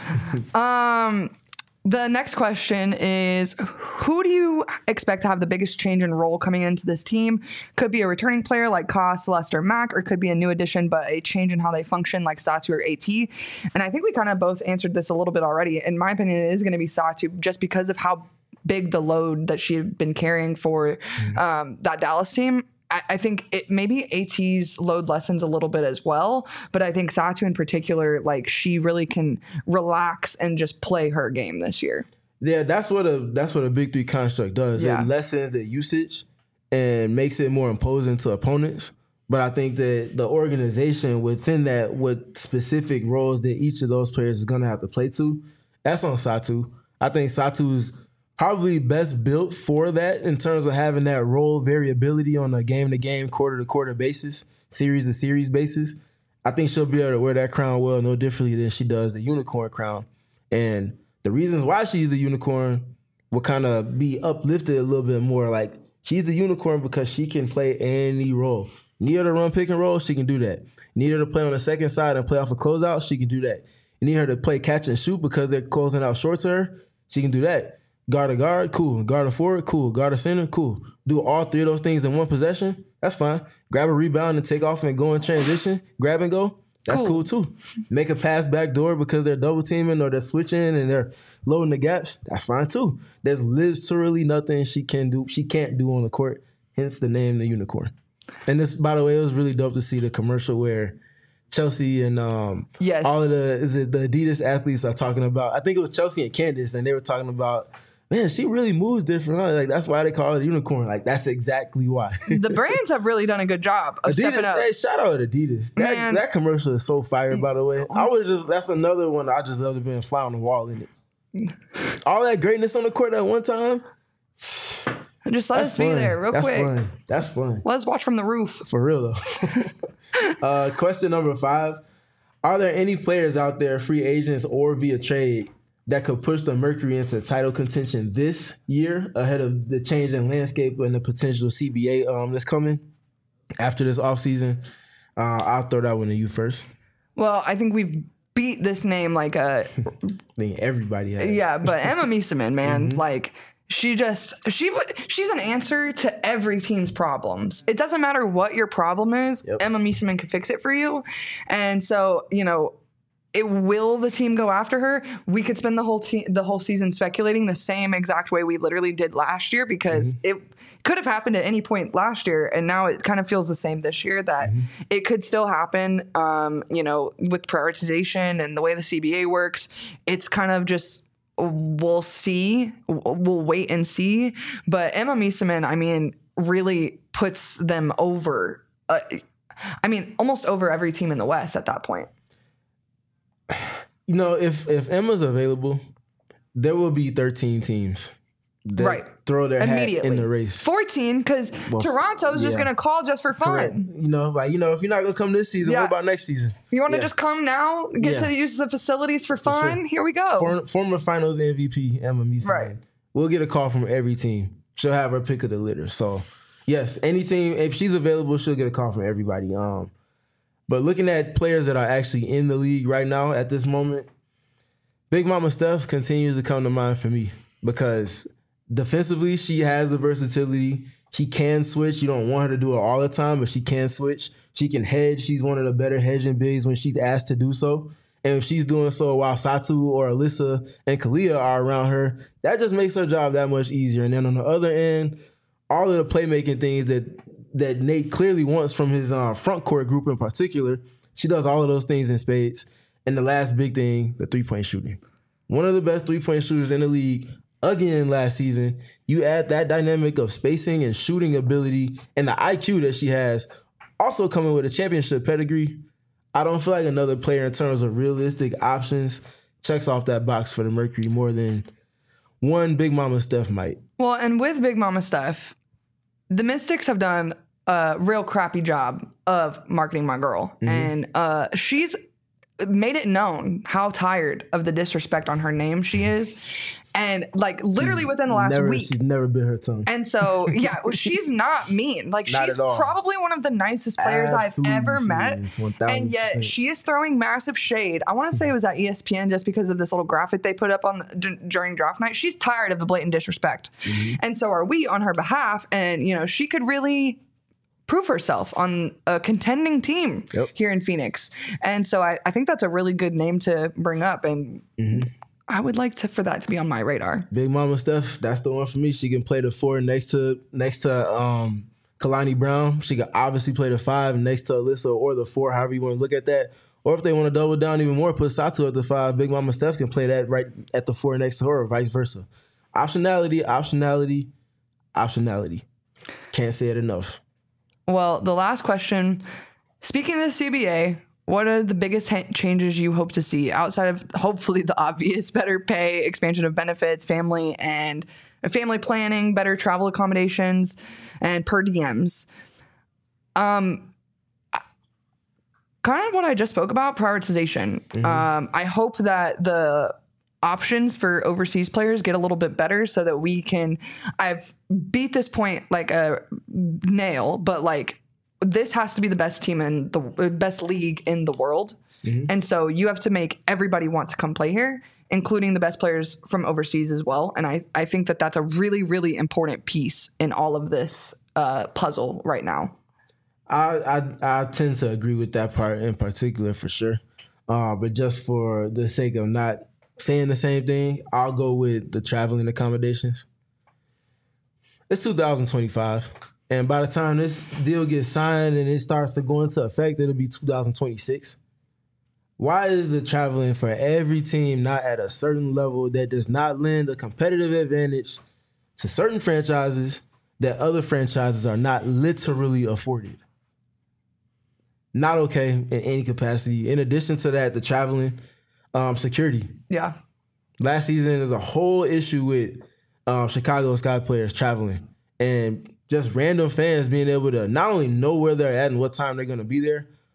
fine. The next question is, who do you expect to have the biggest change in role coming into this team? Could be a returning player like Ka, Celeste, or Mac, or could be a new addition, but a change in how they function like Satu or AT. And I think we kind of both answered this a little bit already. In my opinion, it is going to be Satu just because of how big the load that she had been carrying for that Dallas team. I think maybe AT's load lessens a little bit as well, but I think Satu in particular, like she really can relax and just play her game this year. Yeah, that's what a Big 3 construct does. Yeah. It lessens the usage and makes it more imposing to opponents. But I think that the organization within that, what specific roles that each of those players is going to have to play to, that's on Satu. I think Satu's probably best built for that in terms of having that role variability on a game-to-game, quarter-to-quarter basis, series-to-series basis. I think she'll be able to wear that crown well, no differently than she does the unicorn crown. And the reasons why she's the unicorn will kind of be uplifted a little bit more. Like, she's the unicorn because she can play any role. Need her to run pick and roll, she can do that. Need her to play on the second side and play off a closeout, she can do that. You need her to play catch and shoot because they're closing out short to her, she can do that. Guard a guard, cool. Guard a forward, cool. Guard a center, cool. Do all 3 of those things in one possession, that's fine. Grab a rebound and take off and go in transition, grab and go, that's cool too. Make a pass back door because they're double teaming or they're switching and they're loading the gaps, that's fine too. There's literally nothing she can't do on the court, hence the name the unicorn. And this, by the way, it was really dope to see the commercial where Chelsea and all of the Adidas athletes are talking about, I think it was Chelsea and Candace, and they were talking about, man, she really moves different. Huh? Like, that's why they call it a unicorn. Like, that's exactly why. The brands have really done a good job of stepping up. Hey, shout out to Adidas. That commercial is so fire, by the way. That's another one I just love to be a fly on the wall in it. All that greatness on the court at one time. Just let us be there real quick. That's fun. Let us watch from the roof. For real, though. Question number 5. Are there any players out there, free agents or via trade, that could push the Mercury into title contention this year ahead of the change in landscape and the potential CBA that's coming after this offseason? I'll throw that one to you first. Well, I think we've beat this name like a... I think everybody has. Yeah, but Emma Miesemann, man, like... She's an answer to every team's problems. It doesn't matter what your problem is. Yep. Emma Miesemann can fix it for you. And so, will the team go after her? We could spend the whole season speculating the same exact way we literally did last year, because it could have happened at any point last year, and now it kind of feels the same this year, that it could still happen. With prioritization and the way the CBA works, it's kind of just... We'll see. We'll wait and see. But Emma Miesemann, I mean, really puts them over. Almost over every team in the West at that point. If Emma's available, there will be 13 teams that throw their hat in the race. 14, because Toronto's just going to call just for fun. Correct. If you're not going to come this season, what about next season? You want to just come now, get to use the facilities for fun? For sure. Here we go. Former Finals MVP, Emma Miesemann. Right. We'll get a call from every team. She'll have her pick of the litter. So, yes, any team, if she's available, she'll get a call from everybody. But looking at players that are actually in the league right now at this moment, Big Mama Steph continues to come to mind for me, because defensively, she has the versatility. She can switch. You don't want her to do it all the time, but she can switch. She can hedge. She's one of the better hedging bigs when she's asked to do so. And if she's doing so while Satu or Alyssa and Kalia are around her, that just makes her job that much easier. And then on the other end, all of the playmaking things that Nate clearly wants from his front court group in particular, she does all of those things in spades. And the last big thing, the three-point shooting. One of the best three-point shooters in the league, again last season. You add that dynamic of spacing and shooting ability and the IQ that she has, also coming with a championship pedigree. I don't feel like another player in terms of realistic options checks off that box for the Mercury more than one Big Mama Steph might. Well, and with Big Mama Steph, the Mystics have done a real crappy job of marketing my girl. And she's made it known how tired of the disrespect on her name she is. And literally within the last week. She's never bit her tongue. And so, she's not mean. She's probably one of the nicest players I've ever met. And yet she is throwing massive shade. I want to say it was at ESPN just because of this little graphic they put up during draft night. She's tired of the blatant disrespect. And so are we on her behalf. And, she could really prove herself on a contending team here in Phoenix. And so I think that's a really good name to bring up. And I would like for that to be on my radar. Big Mama Steph, that's the one for me. She can play the 4 next to Kalani Brown. She can obviously play the 5 next to Alyssa, or the 4, however you want to look at that. Or if they want to double down even more, put Satu at the 5. Big Mama Steph can play that right at the 4 next to her, or vice versa. Optionality. Can't say it enough. Well, the last question. Speaking of the CBA, what are the biggest changes you hope to see outside of hopefully the obvious better pay, expansion of benefits, family planning, better travel accommodations, and per diems? Kind of what I just spoke about, prioritization. I hope that the options for overseas players get a little bit better so that we can... I've beat this point like a nail, but this has to be the best team in the best league in the world. And so you have to make everybody want to come play here, including the best players from overseas as well. And I think that that's a really, really important piece in all of this puzzle right now. I tend to agree with that part in particular for sure. But just for the sake of not saying the same thing, I'll go with the traveling accommodations. It's 2025. And by the time this deal gets signed and it starts to go into effect, it'll be 2026. Why is the traveling for every team not at a certain level that does not lend a competitive advantage to certain franchises that other franchises are not literally afforded? Not okay in any capacity. In addition to that, the traveling, security. Yeah. Last season is a whole issue with Chicago Sky players traveling and just random fans being able to not only know where they're at and what time they're going to be there,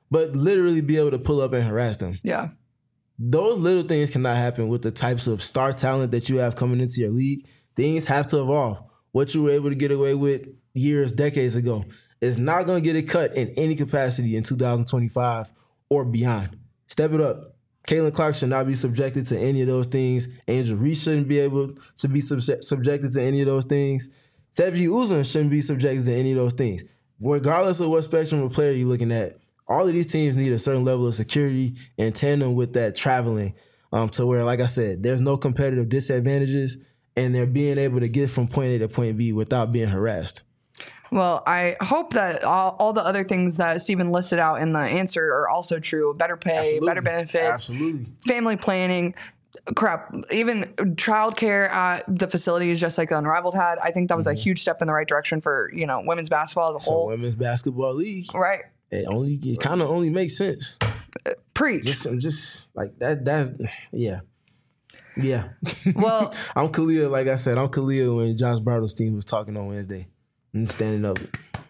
but literally be able to pull up and harass them. Yeah. Those little things cannot happen with the types of star talent that you have coming into your league. Things have to evolve. What you were able to get away with years, decades ago is not going to get it cut in any capacity in 2025 or beyond. Step it up. Caitlin Clark should not be subjected to any of those things. Angel Reese shouldn't be able to be subjected to any of those things. Seji Uzun shouldn't be subjected to any of those things. Regardless of what spectrum of player you're looking at, all of these teams need a certain level of security in tandem with that traveling to where, like I said, there's no competitive disadvantages and they're being able to get from point A to point B without being harassed. Well, I hope that all the other things that Stephen listed out in the answer are also true. Better pay, Absolutely. better benefits, family planning, even childcare at the facilities, just like the Unrivaled had. I think that was a huge step in the right direction for, women's basketball as a whole. Women's basketball league. Right. It kind of only makes sense. Preach. Just like that. Yeah. Yeah. Well, I'm Khalil. Like I said, I'm Khalil when Josh Bartle's team was talking on Wednesday. I'm standing up.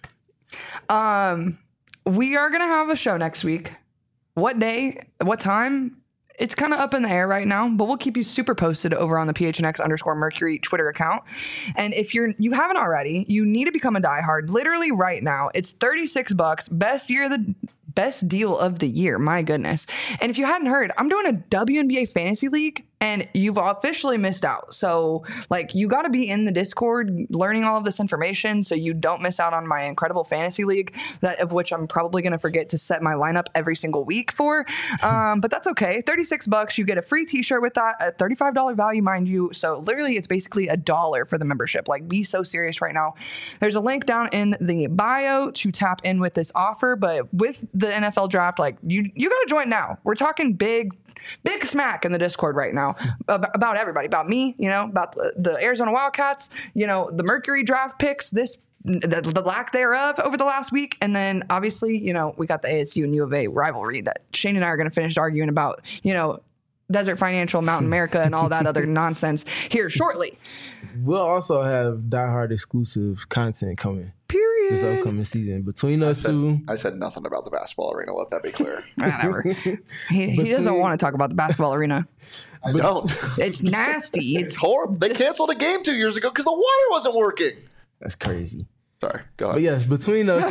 We are going to have a show next week. What day? What time? It's kind of up in the air right now, but we'll keep you super posted over on the PHNX_Mercury Twitter account. And if you haven't already, you need to become a diehard literally right now. It's $36. Best deal of the year. My goodness. And if you hadn't heard, I'm doing a WNBA fantasy league and you've officially missed out. So you got to be in the Discord learning all of this information so you don't miss out on my incredible fantasy league, of which I'm probably going to forget to set my lineup every single week for. But that's okay. $36. You get a free t-shirt with that, a $35 value, mind you. So literally it's basically $1 for the membership. Be so serious right now. There's a link down in the bio to tap in with this offer, but with the NFL draft, you got to join now. We're talking big smack in the Discord right now about everybody, about me, about the Arizona Wildcats, the Mercury draft picks, the lack thereof over the last week. And then obviously, we got the ASU and U of A rivalry that Shane and I are going to finish arguing about, Desert Financial, Mountain America, and all that other nonsense here shortly. We'll also have diehard exclusive content coming. Period. This upcoming season. Between us two. I said nothing about the basketball arena. Let that be clear. Whatever. He doesn't want to talk about the basketball arena. I don't. It's nasty. It's horrible. They canceled a game 2 years ago because the water wasn't working. That's crazy. Sorry. Go ahead. But yes, between us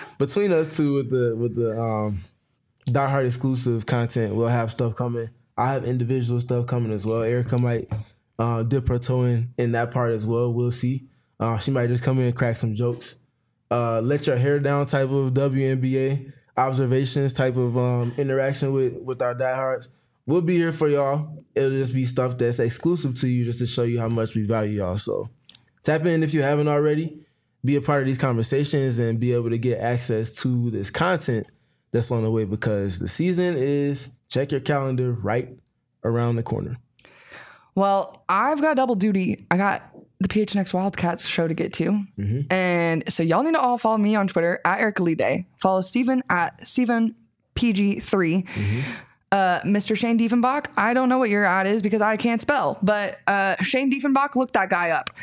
two with the diehard exclusive content, we'll have stuff coming. I have individual stuff coming as well. Erica might dip her toe in that part as well. We'll see. She might just come in and crack some jokes. Let your hair down type of WNBA observations type of interaction with our diehards. We'll be here for y'all. It'll just be stuff that's exclusive to you just to show you how much we value y'all. So tap in if you haven't already. Be a part of these conversations and be able to get access to this content that's on the way because the season is, check your calendar, right around the corner. Well, I've got double duty. I got the PHNX Wildcats show to get to. Mm-hmm. And so y'all need to all follow me on Twitter at Erica Lee Day. Follow Steven at StevenPG3. Mm-hmm. Mr. Shane Diefenbach, I don't know what your ad is because I can't spell, but Shane Diefenbach, look that guy up.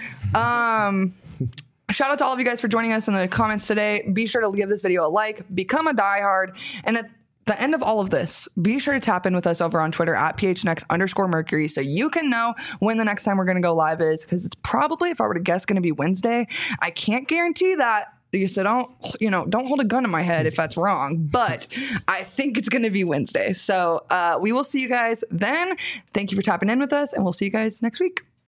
Shout out to all of you guys for joining us in the comments today. Be sure to give this video a like, become a diehard, and at the end of all of this, be sure to tap in with us over on Twitter at PHNX_Mercury so you can know when the next time we're going to go live is, because it's probably, if I were to guess, going to be Wednesday. I can't guarantee that. So don't hold a gun to my head if that's wrong, but I think it's going to be Wednesday. So we will see you guys then. Thank you for tapping in with us, and we'll see you guys next week.